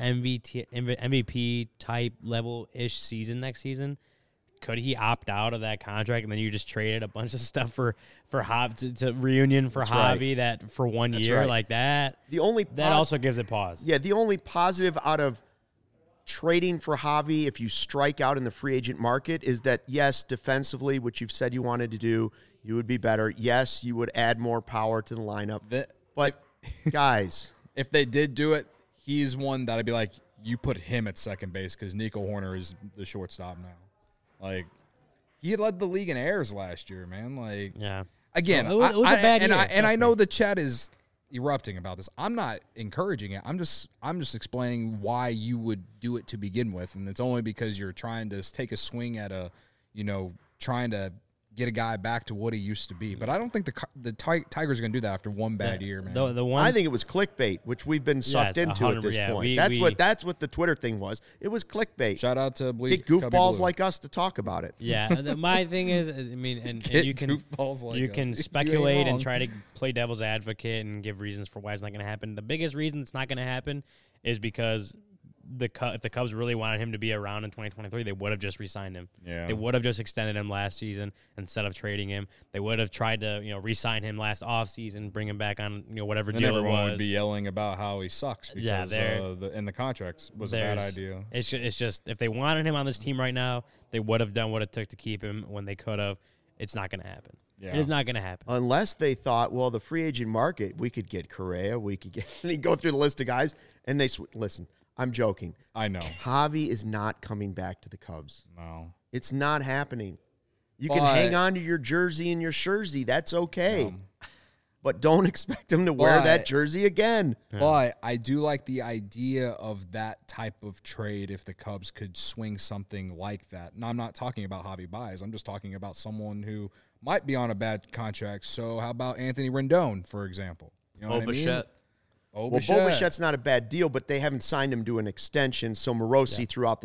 [SPEAKER 2] MVP type level-ish season next season, could he opt out of that contract and then you just traded a bunch of stuff for Javi to reunion for Javi that for 1 year
[SPEAKER 1] right.
[SPEAKER 2] like that? That also gives it pause.
[SPEAKER 1] Yeah, the only positive out of trading for Javi, if you strike out in the free agent market, is that, yes, defensively, which you've said you wanted to do, you would be better. Yes, you would add more power to the lineup. But, guys.
[SPEAKER 3] If they did do it, he's one that I'd be like, you put him at second base because Nico Horner is the shortstop now. Like, he led the league in errors last year, man. Like,
[SPEAKER 2] Yeah.
[SPEAKER 3] Again,
[SPEAKER 2] It was a bad year,
[SPEAKER 3] and I
[SPEAKER 2] trust
[SPEAKER 3] know
[SPEAKER 2] me.
[SPEAKER 3] the chat is erupting about this. I'm not encouraging it. I'm just explaining why you would do it to begin with, and it's only because you're trying to take a swing at trying to get a guy back to what he used to be. But I don't think the Tigers are going to do that after one bad year, man.
[SPEAKER 2] The one
[SPEAKER 1] I think it was clickbait, which we've been sucked into at
[SPEAKER 2] 100%,
[SPEAKER 1] this
[SPEAKER 2] yeah,
[SPEAKER 1] point. That's what the Twitter thing was. It was clickbait.
[SPEAKER 3] Shout out to
[SPEAKER 1] Get goofballs like us to talk about it.
[SPEAKER 2] Yeah, my thing is, I mean, and you can
[SPEAKER 3] goofballs like
[SPEAKER 2] you
[SPEAKER 3] us.
[SPEAKER 2] can
[SPEAKER 3] You
[SPEAKER 2] speculate
[SPEAKER 3] ain't
[SPEAKER 2] and
[SPEAKER 3] wrong.
[SPEAKER 2] try to play devil's advocate and give reasons for why it's not going to happen. The biggest reason it's not going to happen is because if the Cubs really wanted him to be around in 2023, they would have just re-signed him.
[SPEAKER 3] Yeah.
[SPEAKER 2] They would have just extended him last season instead of trading him. They would have tried to re-sign him last offseason, bring him back on whatever
[SPEAKER 3] And
[SPEAKER 2] deal it
[SPEAKER 3] everyone
[SPEAKER 2] was.
[SPEAKER 3] would be yelling about how he sucks because the contracts was a bad idea.
[SPEAKER 2] It's just if they wanted him on this team right now, they would have done what it took to keep him when they could have. It's not going to happen.
[SPEAKER 3] Yeah.
[SPEAKER 2] It is not going to happen.
[SPEAKER 1] Unless they thought, well, the free agent market, we could get Correa, we could get. They go through the list of guys, and they listen. I'm joking.
[SPEAKER 3] I know.
[SPEAKER 1] Javi is not coming back to the Cubs.
[SPEAKER 3] No.
[SPEAKER 1] It's not happening. You can
[SPEAKER 3] But-
[SPEAKER 1] hang on to your jersey and your jersey. That's okay. But don't expect him to wear
[SPEAKER 3] But-
[SPEAKER 1] that jersey again.
[SPEAKER 3] But I do like the idea of that type of trade if the Cubs could swing something like that. And I'm not talking about Javi Baez. I'm just talking about someone who might be on a bad contract. So how about Anthony Rendon, for example? You know what I mean?
[SPEAKER 4] Bichette.
[SPEAKER 1] Well, Bo Bichette's not a bad deal, but they haven't signed him to an extension. So Morosi throughout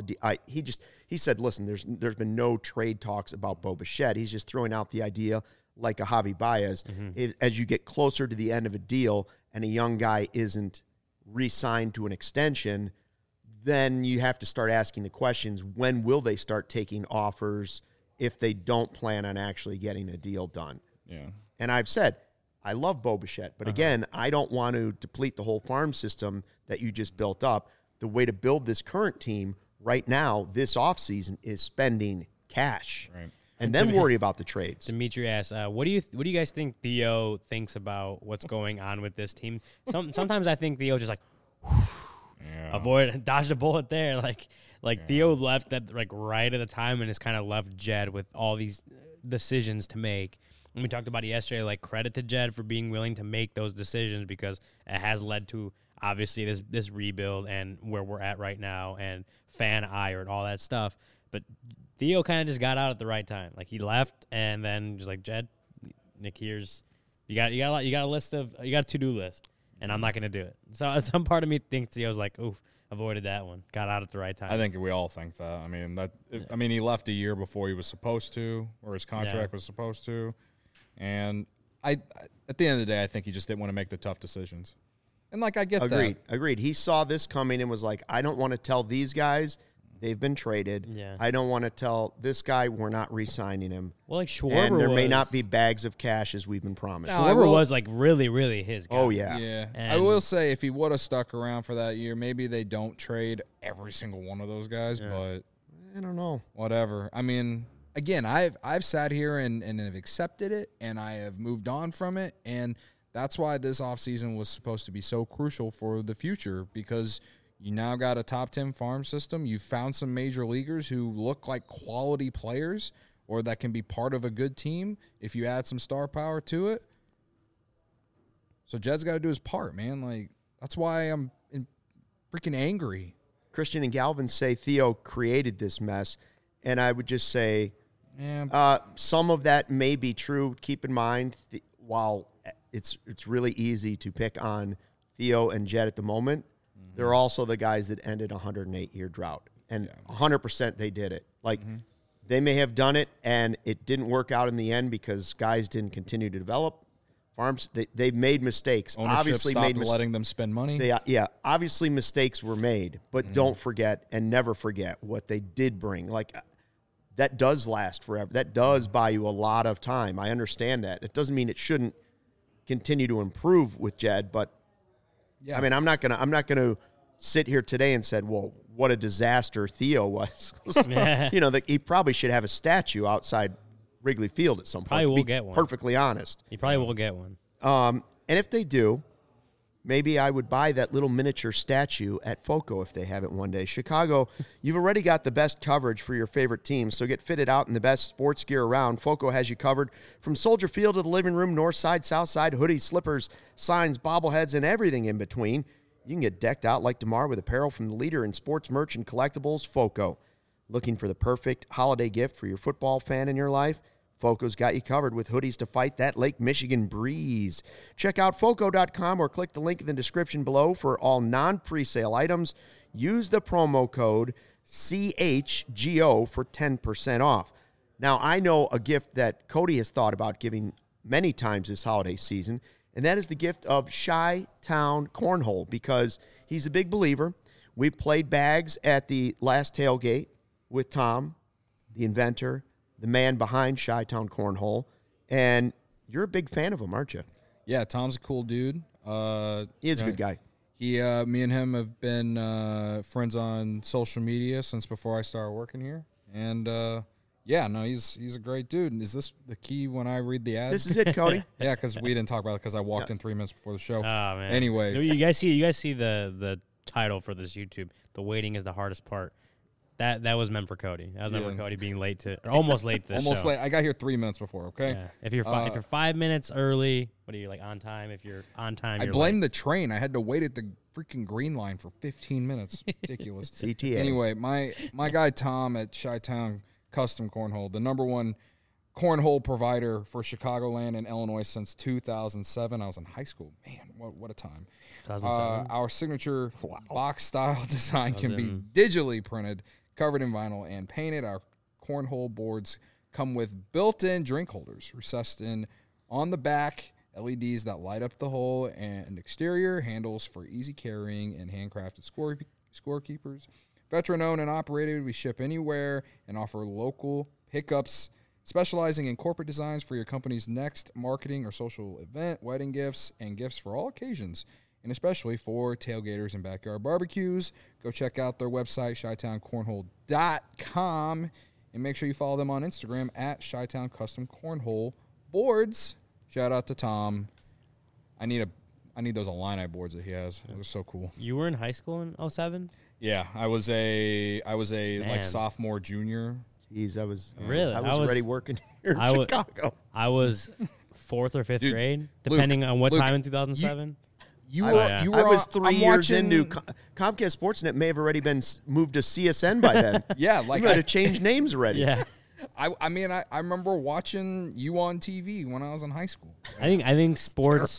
[SPEAKER 1] he said, listen, there's been no trade talks about Bo Bichette. He's just throwing out the idea like a Javi Baez. As you get closer to the end of a deal and a young guy isn't re-signed to an extension, then you have to start asking the questions, when will they start taking offers if they don't plan on actually getting a deal done?
[SPEAKER 3] Yeah.
[SPEAKER 1] And I've said, I love Bo Bichette, but again, I don't want to deplete the whole farm system that you just built up. The way to build this current team right now, this offseason, is spending cash.
[SPEAKER 3] Right.
[SPEAKER 1] And then worry about the trades.
[SPEAKER 2] Dimitri asks, what do you guys think Theo thinks about what's going on with this team? Sometimes I think Theo just like dodged a bullet there. Like Theo left at right at the time and has kind of left Jed with all these decisions to make. And we talked about it yesterday. Like, credit to Jed for being willing to make those decisions, because it has led to obviously this rebuild and where we're at right now and fan ire and all that stuff. But Theo kind of just got out at the right time. Like, he left and then just like, Jed, Nick, here's you got a to-do list, and I'm not going to do it. So some part of me thinks Theo's like, oof, avoided that one. Got out at the right time.
[SPEAKER 3] I think we all think that. I mean, he left a year before he was supposed to, or his contract was supposed to. And at the end of the day, I think he just didn't want to make the tough decisions. And I get that.
[SPEAKER 1] Agreed. He saw this coming and was like, I don't want to tell these guys they've been traded.
[SPEAKER 2] Yeah.
[SPEAKER 1] I don't want to tell this guy we're not re-signing him.
[SPEAKER 2] Well, like Schwarber
[SPEAKER 1] and there may not be bags of cash as we've been promised.
[SPEAKER 3] No,
[SPEAKER 2] Schwarber was really, really his guy.
[SPEAKER 1] Oh, yeah.
[SPEAKER 3] Yeah.
[SPEAKER 2] And
[SPEAKER 3] I will say, if he would have stuck around for that year, maybe they don't trade every single one of those guys, but
[SPEAKER 1] I don't know.
[SPEAKER 3] whatever. I mean, again, I've sat here and have accepted it, and I have moved on from it, and that's why this offseason was supposed to be so crucial for the future, because you now got a top 10 farm system. You found some major leaguers who look like quality players or that can be part of a good team if you add some star power to it. So Jed's got to do his part, man. Like, that's why I'm freaking angry.
[SPEAKER 1] Christian and Galvin say Theo created this mess, and I would just say some of that may be true. Keep in mind, while it's really easy to pick on Theo and Jed at the moment, they're also the guys that ended a 108-year drought, and 100% they did it. Like, they may have done it, and it didn't work out in the end because guys didn't continue to develop. Farms, they've made mistakes.
[SPEAKER 3] Ownership
[SPEAKER 1] Obviously
[SPEAKER 3] stopped letting them spend money.
[SPEAKER 1] Obviously mistakes were made, but don't forget and never forget what they did bring. Like, that does last forever. That does buy you a lot of time. I understand that. It doesn't mean it shouldn't continue to improve with Jed, but I mean, I'm not gonna sit here today and said, well, what a disaster Theo was. He probably should have a statue outside Wrigley Field at some point.
[SPEAKER 2] Probably will get one.
[SPEAKER 1] Perfectly honest.
[SPEAKER 2] He probably will get one.
[SPEAKER 1] And if they do, maybe I would buy that little miniature statue at FOCO if they have it one day. Chicago, you've already got the best coverage for your favorite teams, so get fitted out in the best sports gear around. FOCO has you covered from Soldier Field to the living room, north side, south side, hoodies, slippers, signs, bobbleheads, and everything in between. You can get decked out like DeMar with apparel from the leader in sports merch and collectibles, FOCO. Looking for the perfect holiday gift for your football fan in your life? FOCO's got you covered with hoodies to fight that Lake Michigan breeze. Check out FOCO.com or click the link in the description below for all non-presale items. Use the promo code CHGO for 10% off. Now, I know a gift that Cody has thought about giving many times this holiday season, and that is the gift of Chi-Town Cornhole, because he's a big believer. We played bags at the last tailgate with Tom, the inventor, the man behind Chi-Town Cornhole, and you're a big fan of him, aren't you?
[SPEAKER 3] Yeah, Tom's a cool dude.
[SPEAKER 1] He is a good guy.
[SPEAKER 3] Me and him have been friends on social media since before I started working here, and he's a great dude. Is this the key when I read the ads?
[SPEAKER 1] This is it, Cody.
[SPEAKER 3] Yeah, because we didn't talk about it because I walked in 3 minutes before the show.
[SPEAKER 2] Oh man.
[SPEAKER 3] Anyway,
[SPEAKER 2] you guys see the title for this YouTube. The waiting is the hardest part. That was meant for Cody. That was meant for Cody being late to, or almost late to the
[SPEAKER 3] almost
[SPEAKER 2] show.
[SPEAKER 3] late. I got here 3 minutes before. Okay.
[SPEAKER 2] Yeah. If you're 5 minutes early, what are you, like, on time? If you're on time,
[SPEAKER 3] I blame the train. I had to wait at the freaking green line for 15 minutes. Ridiculous.
[SPEAKER 1] CTA.
[SPEAKER 3] Anyway, my guy Tom at Chi-Town Custom Cornhole, the number one cornhole provider for Chicagoland and Illinois since 2007. I was in high school. Man, what a time. Our signature box-style design can be digitally printed, covered in vinyl, and painted. Our cornhole boards come with built-in drink holders recessed in on the back, LEDs that light up the hole, and exterior handles for easy carrying and handcrafted scorekeepers. Veteran-owned and operated, we ship anywhere and offer local pickups, specializing in corporate designs for your company's next marketing or social event, wedding gifts, and gifts for all occasions. and especially for tailgaters and backyard barbecues. Go check out their website, ChiTownCornhole.com, and make sure you follow them on Instagram at ChiTown Custom Cornhole Boards. Shout out to Tom. I need those Illini boards that he has. It was so cool.
[SPEAKER 2] You were in high school in 07?
[SPEAKER 3] Yeah, I was a like sophomore, junior.
[SPEAKER 1] Jeez, I was already working here in Chicago.
[SPEAKER 2] I was 4th or 5th grade, depending on what time in 2007.
[SPEAKER 1] I was 3 years into Comcast Sportsnet. May have already been moved to CSN by then.
[SPEAKER 3] Yeah, like
[SPEAKER 1] you had to change names already.
[SPEAKER 2] Yeah.
[SPEAKER 3] I mean, I remember watching you on TV when I was in high school.
[SPEAKER 2] I think sports.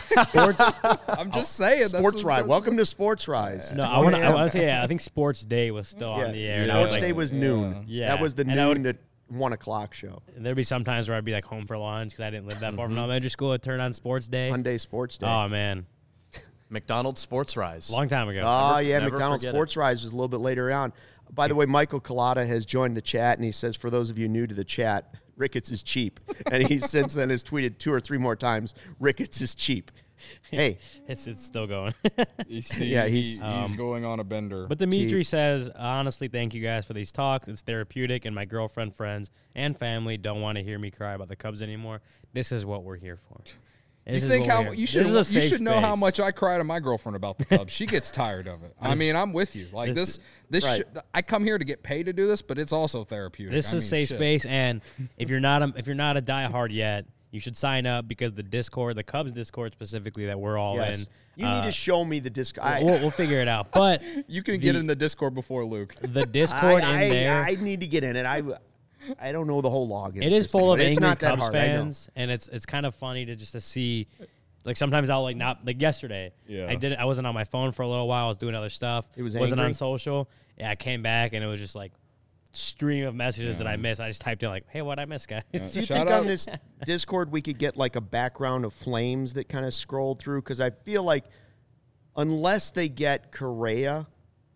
[SPEAKER 3] I'm just saying.
[SPEAKER 1] Sports Rise. Welcome to Sports Rise.
[SPEAKER 2] No, I want to say, I think Sports Day was still on the air.
[SPEAKER 1] Sports Day was noon.
[SPEAKER 2] Yeah.
[SPEAKER 1] That was the noon to 1 o'clock show.
[SPEAKER 2] There'd be some times where I'd be like home for lunch because I didn't live that far from elementary school. I'd turn on Sports Day.
[SPEAKER 1] Hyundai Sports Day.
[SPEAKER 2] Oh, man.
[SPEAKER 4] McDonald's Sports Rise.
[SPEAKER 2] Long time ago.
[SPEAKER 1] Oh,
[SPEAKER 4] never
[SPEAKER 1] McDonald's Sports Rise was a little bit later on. By the way, Michael Collada has joined the chat, and he says, for those of you new to the chat, Ricketts is cheap. And he since then has tweeted 2 or 3 more times, Ricketts is cheap. Hey.
[SPEAKER 2] It's still going.
[SPEAKER 3] He's going on a bender.
[SPEAKER 2] But Dimitri says, honestly, thank you guys for these talks. It's therapeutic, and my girlfriend, friends, and family don't want to hear me cry about the Cubs anymore. This is what we're here for.
[SPEAKER 3] You should know how much I cry to my girlfriend about the Cubs. She gets tired of it. I mean, I'm with you. Like this right. I come here to get paid to do this, but it's also therapeutic.
[SPEAKER 2] This is a safe space, and if you're not a diehard yet, you should sign up because the Discord, the Cubs Discord specifically, that we're all in.
[SPEAKER 1] You need to show me the Discord.
[SPEAKER 2] We'll figure it out. But
[SPEAKER 3] you can get in the Discord before Luke.
[SPEAKER 2] The Discord in there.
[SPEAKER 1] I need to get in it. I don't know the whole login.
[SPEAKER 2] It is full of angry Cubs
[SPEAKER 1] hard,
[SPEAKER 2] fans, and it's kind of funny to see. Like sometimes I'll not yesterday. Yeah. I wasn't on my phone for a little while. I was doing other stuff. Wasn't on social. Yeah, I came back and it was just like stream of messages that I missed. I just typed in like, "Hey, what I missed, guys?"
[SPEAKER 1] Do you think on this Discord we could get like a background of flames that kind of scrolled through? Because I feel like unless they get Correa.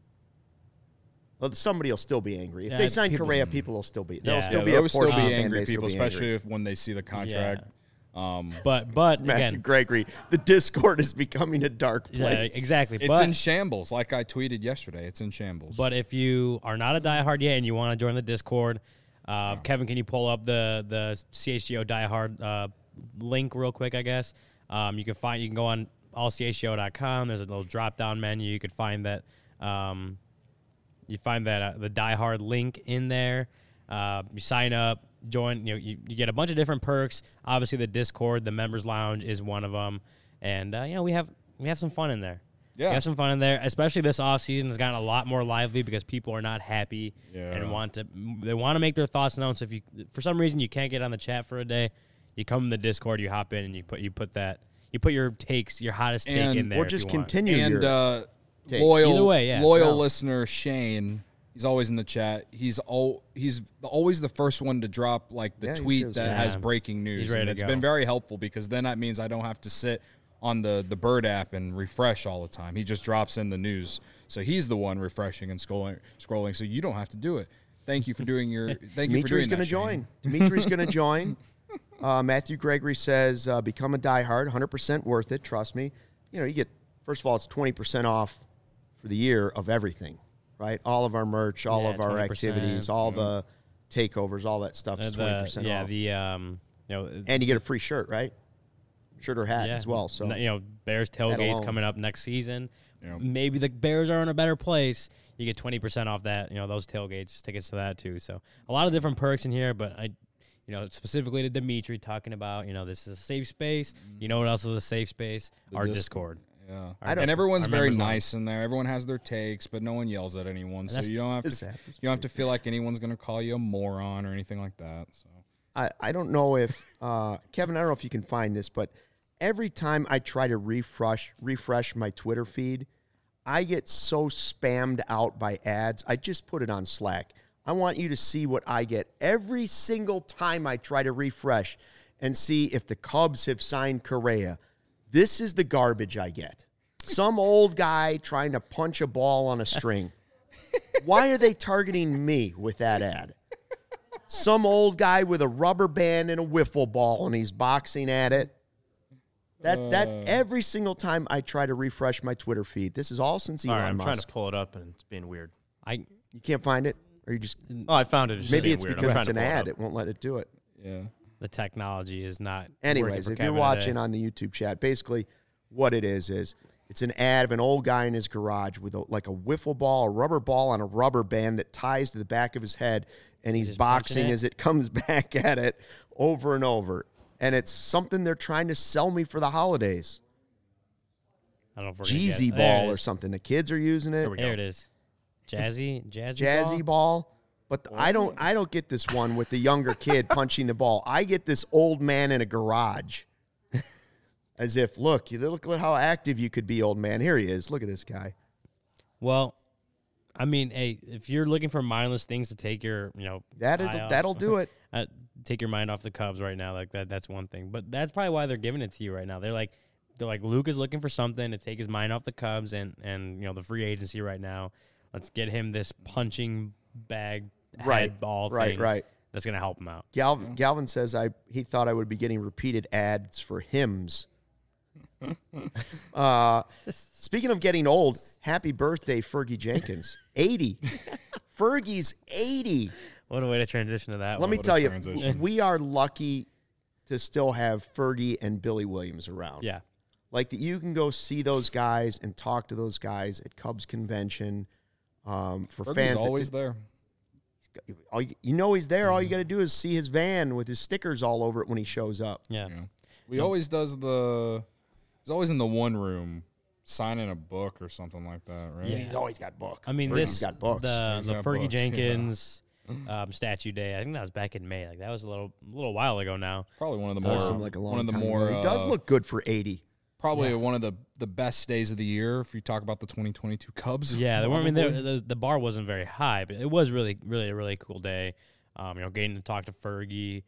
[SPEAKER 1] Well, somebody will still be angry. If they sign Correa, people will still be. There'll still be a portion of
[SPEAKER 3] angry people, especially when they see the contract.
[SPEAKER 2] Yeah. But
[SPEAKER 1] Matthew
[SPEAKER 2] again,
[SPEAKER 1] Gregory, the Discord is becoming a dark place.
[SPEAKER 2] Yeah, exactly.
[SPEAKER 3] It's in shambles, like I tweeted yesterday. It's in shambles.
[SPEAKER 2] But if you are not a diehard yet and you want to join the Discord, Kevin, can you pull up the CHGO diehard link real quick? I guess you can go on allchgo.com. There's a little drop down menu. You could find that. You find that the diehard link in there. You sign up. Join, you get a bunch of different perks. Obviously, the Discord, the members lounge is one of them, and we have some fun in there. Yeah, we have some fun in there. Especially this off season has gotten a lot more lively because people are not happy and want to make their thoughts known. So if you for some reason you can't get on the chat for a day, you come in the Discord, you hop in, and you put your takes, your hottest take in there,
[SPEAKER 1] or just continue.
[SPEAKER 3] And loyal listener Shane. He's always in the chat. He's always the first one to drop like the tweet that has breaking news. And it's been very helpful because then that means I don't have to sit on the Bird app and refresh all the time. He just drops in the news. So he's the one refreshing and scrolling so you don't have to do it. Thank you for doing your
[SPEAKER 1] Dimitri's going to join. Dimitri's going to join. Matthew Gregory says become a diehard, 100% worth it, trust me. You get first of all it's 20% off for the year of everything. Right, all of our merch, all of our activities, all the takeovers, all that stuff is 20% off. And you get a free shirt, right? Shirt or hat as well. So
[SPEAKER 2] Bears tailgates coming up next season. Yep. Maybe the Bears are in a better place. You get 20% off that. Those tailgates, tickets to that too. So a lot of different perks in here. But specifically to Dimitri talking about, this is a safe space. You know what else is a safe space? Our Discord.
[SPEAKER 3] Yeah, and everyone's very nice in there. Everyone has their takes, but no one yells at anyone, so you don't have to feel like anyone's going to call you a moron or anything like that. So
[SPEAKER 1] I don't know if Kevin, I don't know if you can find this, but every time I try to refresh my Twitter feed, I get so spammed out by ads. I just put it on Slack. I want you to see what I get every single time I try to refresh and see if the Cubs have signed Correa. This is the garbage I get. Some old guy trying to punch a ball on a string. Why are they targeting me with that ad? Some old guy with a rubber band and a wiffle ball, and he's boxing at it. That's every single time I try to refresh my Twitter feed. This is all since
[SPEAKER 4] All
[SPEAKER 1] Elon
[SPEAKER 4] right, I'm
[SPEAKER 1] Musk.
[SPEAKER 4] trying to pull it up, and it's being weird.
[SPEAKER 1] You can't find it, or you just
[SPEAKER 4] Oh, I found it. It's
[SPEAKER 1] maybe
[SPEAKER 4] being
[SPEAKER 1] it's
[SPEAKER 4] weird. I'm
[SPEAKER 1] because
[SPEAKER 4] trying
[SPEAKER 1] it's
[SPEAKER 4] to
[SPEAKER 1] an
[SPEAKER 4] pull
[SPEAKER 1] ad.
[SPEAKER 4] up.
[SPEAKER 1] It won't let it do it.
[SPEAKER 3] Yeah.
[SPEAKER 2] The technology is not.
[SPEAKER 1] Anyways,
[SPEAKER 2] working for
[SPEAKER 1] if
[SPEAKER 2] Kevin
[SPEAKER 1] you're watching
[SPEAKER 2] today.
[SPEAKER 1] on the YouTube chat, basically what it is it's an ad of an old guy in his garage with like a wiffle ball, a rubber ball on a rubber band that ties to the back of his head, and he's
[SPEAKER 2] just punching
[SPEAKER 1] boxing
[SPEAKER 2] it?
[SPEAKER 1] as it comes back at it over and over. And it's something they're trying to sell me for the holidays.
[SPEAKER 2] I don't know if we're gonna get
[SPEAKER 1] Jeezy
[SPEAKER 2] it. There it
[SPEAKER 1] ball or
[SPEAKER 2] is.
[SPEAKER 1] something. The kids are using it.
[SPEAKER 4] There we go.
[SPEAKER 2] There it is. Jazzy
[SPEAKER 1] Jazzy ball. But I don't get this one with the younger kid punching the ball. I get this old man in a garage. As if, look at how active you could be, old man. Here he is. Look at this guy.
[SPEAKER 2] Well, I mean, hey, if you're looking for mindless things to take your, eye off-
[SPEAKER 1] That'll do it.
[SPEAKER 2] take your mind off the Cubs right now, like that's one thing. But that's probably why they're giving it to you right now. They're like Luke is looking for something to take his mind off the Cubs and the free agency right now. Let's get him this punching bag head ball thing.
[SPEAKER 1] Right.
[SPEAKER 2] That's gonna help him out.
[SPEAKER 1] Galvin says he thought I would be getting repeated ads for hymns. Speaking of getting old, happy birthday, Fergie Jenkins. 80. Fergie's 80.
[SPEAKER 2] What a way to transition to that.
[SPEAKER 1] Let
[SPEAKER 2] one.
[SPEAKER 1] me
[SPEAKER 3] What a
[SPEAKER 1] tell you,
[SPEAKER 3] transition.
[SPEAKER 1] we are lucky to still have Fergie and Billy Williams around.
[SPEAKER 2] Yeah.
[SPEAKER 1] Like that you can go see those guys and talk to those guys at Cubs convention. For
[SPEAKER 3] Fergie's
[SPEAKER 1] fans,
[SPEAKER 3] always there.
[SPEAKER 1] you know he's there. All you got to do is see his van with his stickers all over it when he shows up.
[SPEAKER 2] Yeah.
[SPEAKER 3] He's always in the one room signing a book or something like that, right?
[SPEAKER 2] Yeah.
[SPEAKER 1] He's always got books.
[SPEAKER 2] I mean,
[SPEAKER 1] Fergie's got books.
[SPEAKER 3] He's
[SPEAKER 2] the
[SPEAKER 3] got
[SPEAKER 2] Fergie
[SPEAKER 3] books, yeah.
[SPEAKER 2] Jenkins statue day. I think that was back in May. Like that was a little while ago now.
[SPEAKER 3] Probably one of the
[SPEAKER 1] Does
[SPEAKER 3] more
[SPEAKER 1] seem like a long
[SPEAKER 3] one of the
[SPEAKER 1] time
[SPEAKER 3] more
[SPEAKER 1] ago. He does look good for 80.
[SPEAKER 3] probably one of the best days of the year if you talk about the 2022 Cubs.
[SPEAKER 2] Yeah, I mean,
[SPEAKER 3] probably.
[SPEAKER 2] the bar wasn't very high, but it was really a really cool day. Getting to talk to Fergie.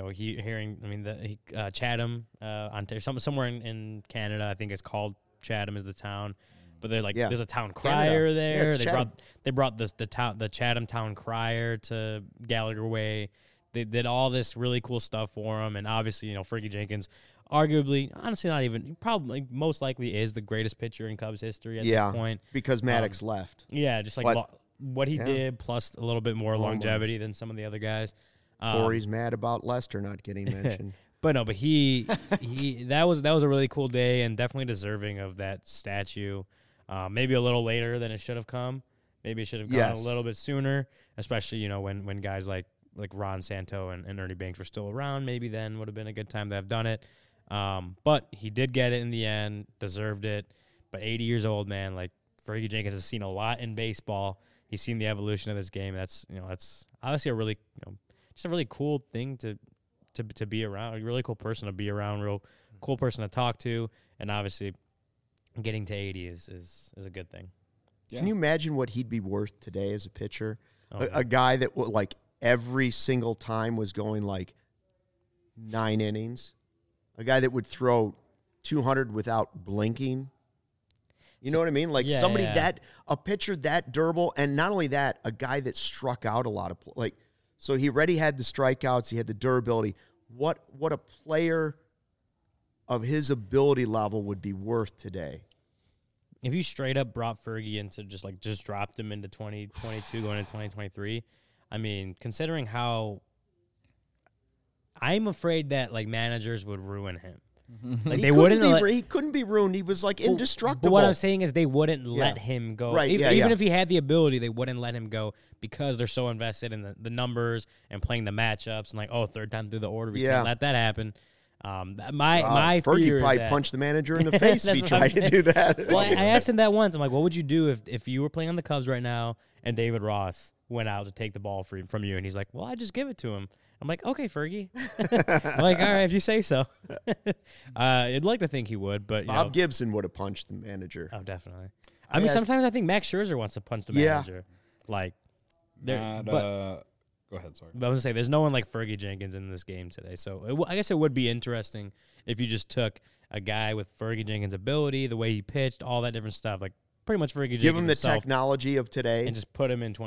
[SPEAKER 2] Chatham, somewhere in Canada. I think it's called Chatham is the town, but they're like there's a town crier there.
[SPEAKER 1] Yeah,
[SPEAKER 2] they brought the Chatham town crier to Gallagher Way. They did all this really cool stuff for him, and obviously Fergie Jenkins, arguably, honestly, not even probably most likely is the greatest pitcher in Cubs history at this point
[SPEAKER 1] because Maddox left.
[SPEAKER 2] Yeah, just like
[SPEAKER 1] But-
[SPEAKER 2] what he did, plus a little bit more longevity than some of the other guys.
[SPEAKER 1] Corey's mad about Lester not getting mentioned.
[SPEAKER 2] But he that was a really cool day and definitely deserving of that statue. Maybe a little later than it should have come. Maybe it should have gone a little bit sooner, especially when guys like Ron Santo and Ernie Banks were still around. Maybe then would have been a good time to have done it. But he did get it in the end, deserved it. But 80 years old, man, like Fergie Jenkins has seen a lot in baseball. He's seen the evolution of this game. That's obviously a really just a really cool thing to be around. A really cool person to be around. Real cool person to talk to. And obviously, getting to 80 is a good thing.
[SPEAKER 3] Yeah.
[SPEAKER 1] Can you imagine what he'd be worth today as a pitcher?
[SPEAKER 2] Oh,
[SPEAKER 1] A guy that like every single time was going like 9 innings. A guy that would throw 200 without blinking. You know what I mean? Like somebody a pitcher that durable, and not only that, a guy that struck out a lot of so he already had the strikeouts, he had the durability. What a player of his ability level would be worth today.
[SPEAKER 2] If you straight up brought Fergie into just dropped him into 2022 going into 2023, I mean, considering how I'm afraid that managers would ruin him. Like they wouldn't.
[SPEAKER 1] He couldn't be ruined. He was like indestructible.
[SPEAKER 2] But what I'm saying is, they wouldn't let him go.
[SPEAKER 1] Right,
[SPEAKER 2] Even if he had the ability, they wouldn't let him go because they're so invested in the numbers and playing the matchups and third time through the order, we can't let that happen. My
[SPEAKER 1] Fergie
[SPEAKER 2] fear
[SPEAKER 1] probably
[SPEAKER 2] is that,
[SPEAKER 1] punched the manager in the face if he
[SPEAKER 2] That's what I'm
[SPEAKER 1] tried to do that.
[SPEAKER 2] Well, I asked him that once. I'm like, what would you do if you were playing on the Cubs right now and David Ross went out to take the ball from you? And he's like, well, I just give it to him. I'm like, okay, Fergie. I'm like, all right, if you say so. I'd like to think he would, but
[SPEAKER 1] Bob Gibson would have punched the manager.
[SPEAKER 2] Oh, definitely. I mean, sometimes I think Max Scherzer wants to punch the manager. Like,
[SPEAKER 3] Go ahead, sorry.
[SPEAKER 2] But I was gonna say, there's no one like Fergie Jenkins in this game today. So I guess it would be interesting if you just took a guy with Fergie Jenkins' ability, the way he pitched, all that different stuff, like pretty much Fergie Jenkins
[SPEAKER 1] Give him the
[SPEAKER 2] himself,
[SPEAKER 1] technology of today.
[SPEAKER 2] and just put him in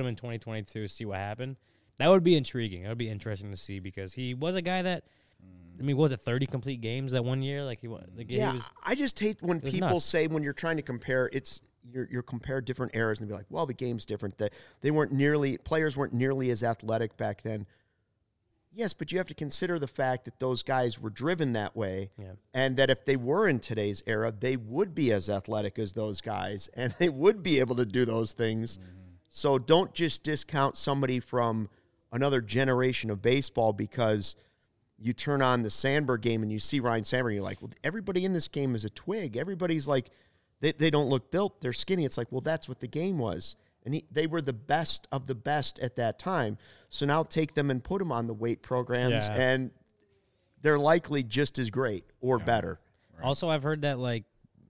[SPEAKER 2] 2022, see what happened. That would be intriguing. That would be interesting to see because he was a guy that I mean, what was it 30 complete games that one year? Like he was.
[SPEAKER 1] I just hate when people
[SPEAKER 2] nuts.
[SPEAKER 1] say when you're trying to compare, you're compare different eras and be like, well, the game's different. That players weren't nearly as athletic back then. Yes, but you have to consider the fact that those guys were driven that way, and that if they were in today's era, they would be as athletic as those guys, and they would be able to do those things. So don't just discount somebody from another generation of baseball because you turn on the Sandberg game and you see Ryan Sandberg, and you're like, well, everybody in this game is a twig. Everybody's like, they don't look built. They're skinny. It's like, well, that's what the game was. And they were the best of the best at that time. So now take them and put them on the weight programs, and they're likely just as great or better.
[SPEAKER 2] Right. Also, I've heard that, like,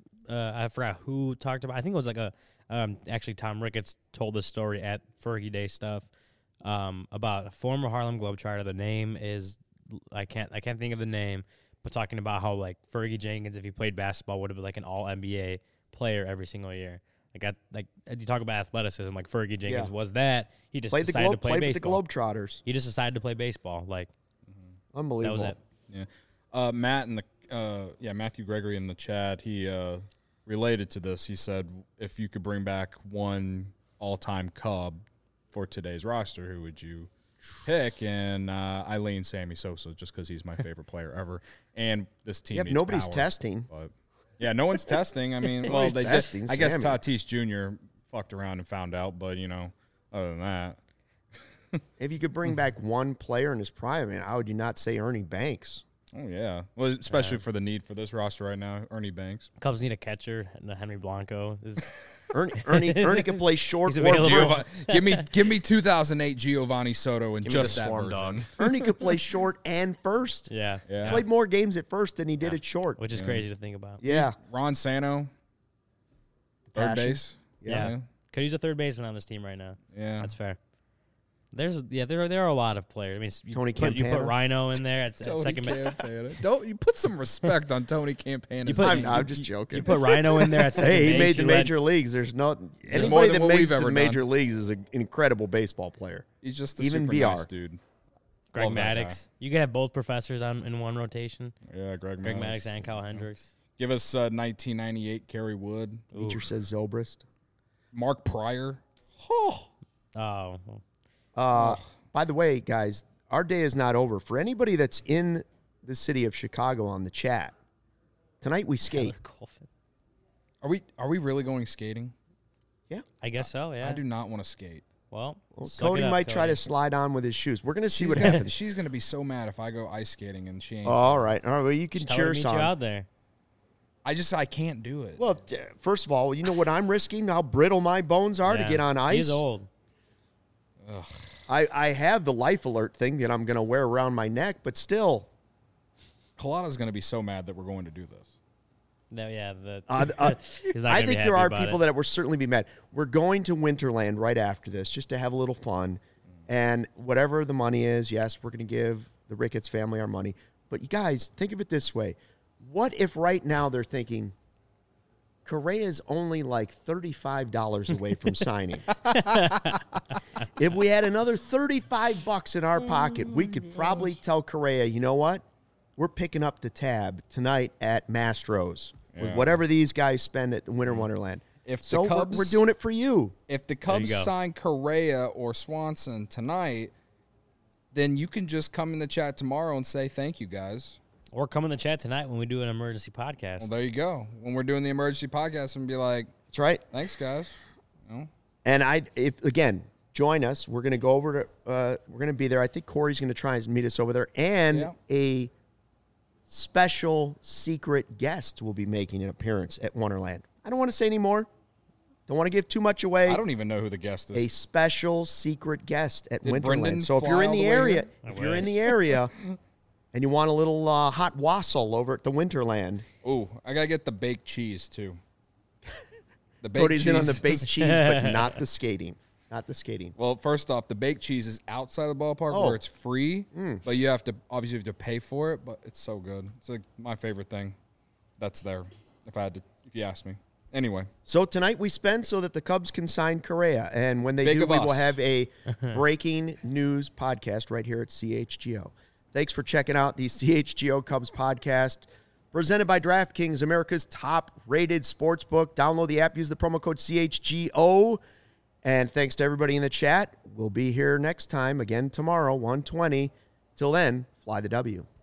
[SPEAKER 2] I forgot who talked about. I think it was like actually Tom Ricketts told this story at Fergie Day stuff about a former Harlem Globetrotter. The name is I can't think of the name, but talking about how like Fergie Jenkins, if he played basketball, would have been like an All NBA player every single year. Like you talk about athleticism, like Fergie Jenkins was that. He just decided to play baseball.
[SPEAKER 1] With the Globetrotters.
[SPEAKER 2] He just decided to play baseball. Like,
[SPEAKER 1] unbelievable.
[SPEAKER 2] That was
[SPEAKER 3] it. Yeah. Matt in the Matthew Gregory in the chat, he related to this. He said, if you could bring back one all-time Cub for today's roster, who would you pick? And I lean Sammy Sosa just because he's my favorite player ever. And this team needs
[SPEAKER 1] nobody's
[SPEAKER 3] power,
[SPEAKER 1] testing.
[SPEAKER 3] But yeah, no one's testing. I mean, well, they testing. I guess Tatis Jr. fucked around and found out, but other than that,
[SPEAKER 1] if you could bring back one player in his prime, man, how would you not say Ernie Banks?
[SPEAKER 3] Oh yeah, well, especially for the need for this roster right now, Ernie Banks.
[SPEAKER 2] Cubs need a catcher, and Henry Blanco is.
[SPEAKER 1] Ernie can play short.
[SPEAKER 3] Give me 2008 Giovanni Soto and just that version.
[SPEAKER 4] Dog.
[SPEAKER 1] Ernie could play short and first.
[SPEAKER 2] Yeah.
[SPEAKER 1] Played more games at first than he did at short,
[SPEAKER 2] which is crazy to think about.
[SPEAKER 1] Yeah.
[SPEAKER 3] Ron Santo, third base.
[SPEAKER 2] Yeah. Could use a third baseman on this team right now.
[SPEAKER 3] Yeah,
[SPEAKER 2] that's fair. There are a lot of players. I mean,
[SPEAKER 1] Tony Campana.
[SPEAKER 2] You put Rhino in there at second base.
[SPEAKER 3] Don't you put some respect on Tony Campana?
[SPEAKER 1] I'm just joking.
[SPEAKER 2] You put Rhino in there at second base.
[SPEAKER 1] Hey, he made the major leagues. There's anybody that makes it to the major leagues is an incredible baseball player.
[SPEAKER 3] He's just a
[SPEAKER 1] even
[SPEAKER 3] super
[SPEAKER 1] VR
[SPEAKER 3] nice dude.
[SPEAKER 2] Greg Maddux. You could have both professors in one rotation.
[SPEAKER 3] Yeah, Greg
[SPEAKER 2] Maddux and Kyle Hendricks.
[SPEAKER 3] Give us 1998 Kerry Wood.
[SPEAKER 1] Teacher says Zobrist.
[SPEAKER 3] Mark Pryor.
[SPEAKER 1] By the way, guys, our day is not over. For anybody that's in the city of Chicago on the chat, tonight we skate.
[SPEAKER 3] Are we really going skating?
[SPEAKER 1] Yeah.
[SPEAKER 2] I guess so, yeah.
[SPEAKER 3] I do not want to skate.
[SPEAKER 2] Well
[SPEAKER 1] Cody might try to slide on with his shoes. We're going to see what happens.
[SPEAKER 3] She's going to be so mad if I go ice skating and she ain't.
[SPEAKER 1] All right. Well, you can cheer us on.
[SPEAKER 2] You out there.
[SPEAKER 3] I can't do it.
[SPEAKER 1] Well, first of all, you know what I'm risking? How brittle my bones are to get on ice?
[SPEAKER 2] He's old.
[SPEAKER 3] Ugh.
[SPEAKER 1] I have the life alert thing that I'm going to wear around my neck, but still.
[SPEAKER 3] Kalana's going to be so mad that we're going to do this.
[SPEAKER 2] No, yeah.
[SPEAKER 1] I think there are people that will certainly be mad. We're going to Winterland right after this just to have a little fun. And whatever the money is, yes, we're going to give the Ricketts family our money. But you guys, think of it this way. What if right now they're thinking, Correa's only like $35 away from signing? If we had another $35 in our pocket, we could probably tell Correa, you know what? We're picking up the tab tonight at Mastro's with whatever these guys spend at the Winter Wonderland. We're doing it for you.
[SPEAKER 3] If the Cubs sign Correa or Swanson tonight, then you can just come in the chat tomorrow and say thank you, guys.
[SPEAKER 2] Or come in the chat tonight when we do an emergency podcast.
[SPEAKER 3] Well, there you go. When we're doing the emergency podcast and be like,
[SPEAKER 1] that's right.
[SPEAKER 3] Thanks, guys.
[SPEAKER 1] And if join us. We're going to go over to, we're going to be there. I think Corey's going to try and meet us over there. And a special secret guest will be making an appearance at Wonderland. I don't want to say any more. Don't want to give too much away.
[SPEAKER 3] I don't even know who the guest is.
[SPEAKER 1] A special secret guest at Winterland.
[SPEAKER 3] Brendan
[SPEAKER 1] so if you're in the area, and you want a little hot wassail over at the Winterland.
[SPEAKER 3] Ooh, I got to get the baked cheese, too.
[SPEAKER 1] The baked Cody's cheese. In on the baked cheese, but not the skating. Not the skating.
[SPEAKER 3] Well, first off, the baked cheese is outside the ballpark where it's free, but you have to pay for it, but it's so good. It's like my favorite thing that's there, if you ask me. Anyway.
[SPEAKER 1] So tonight we spend so that the Cubs can sign Correa, and when they do, we will have a breaking news podcast right here at CHGO. Thanks for checking out the CHGO Cubs podcast, presented by DraftKings, America's top-rated sportsbook. Download the app, use the promo code CHGO. And thanks to everybody in the chat. We'll be here next time, again tomorrow, 1:20. Till then, fly the W.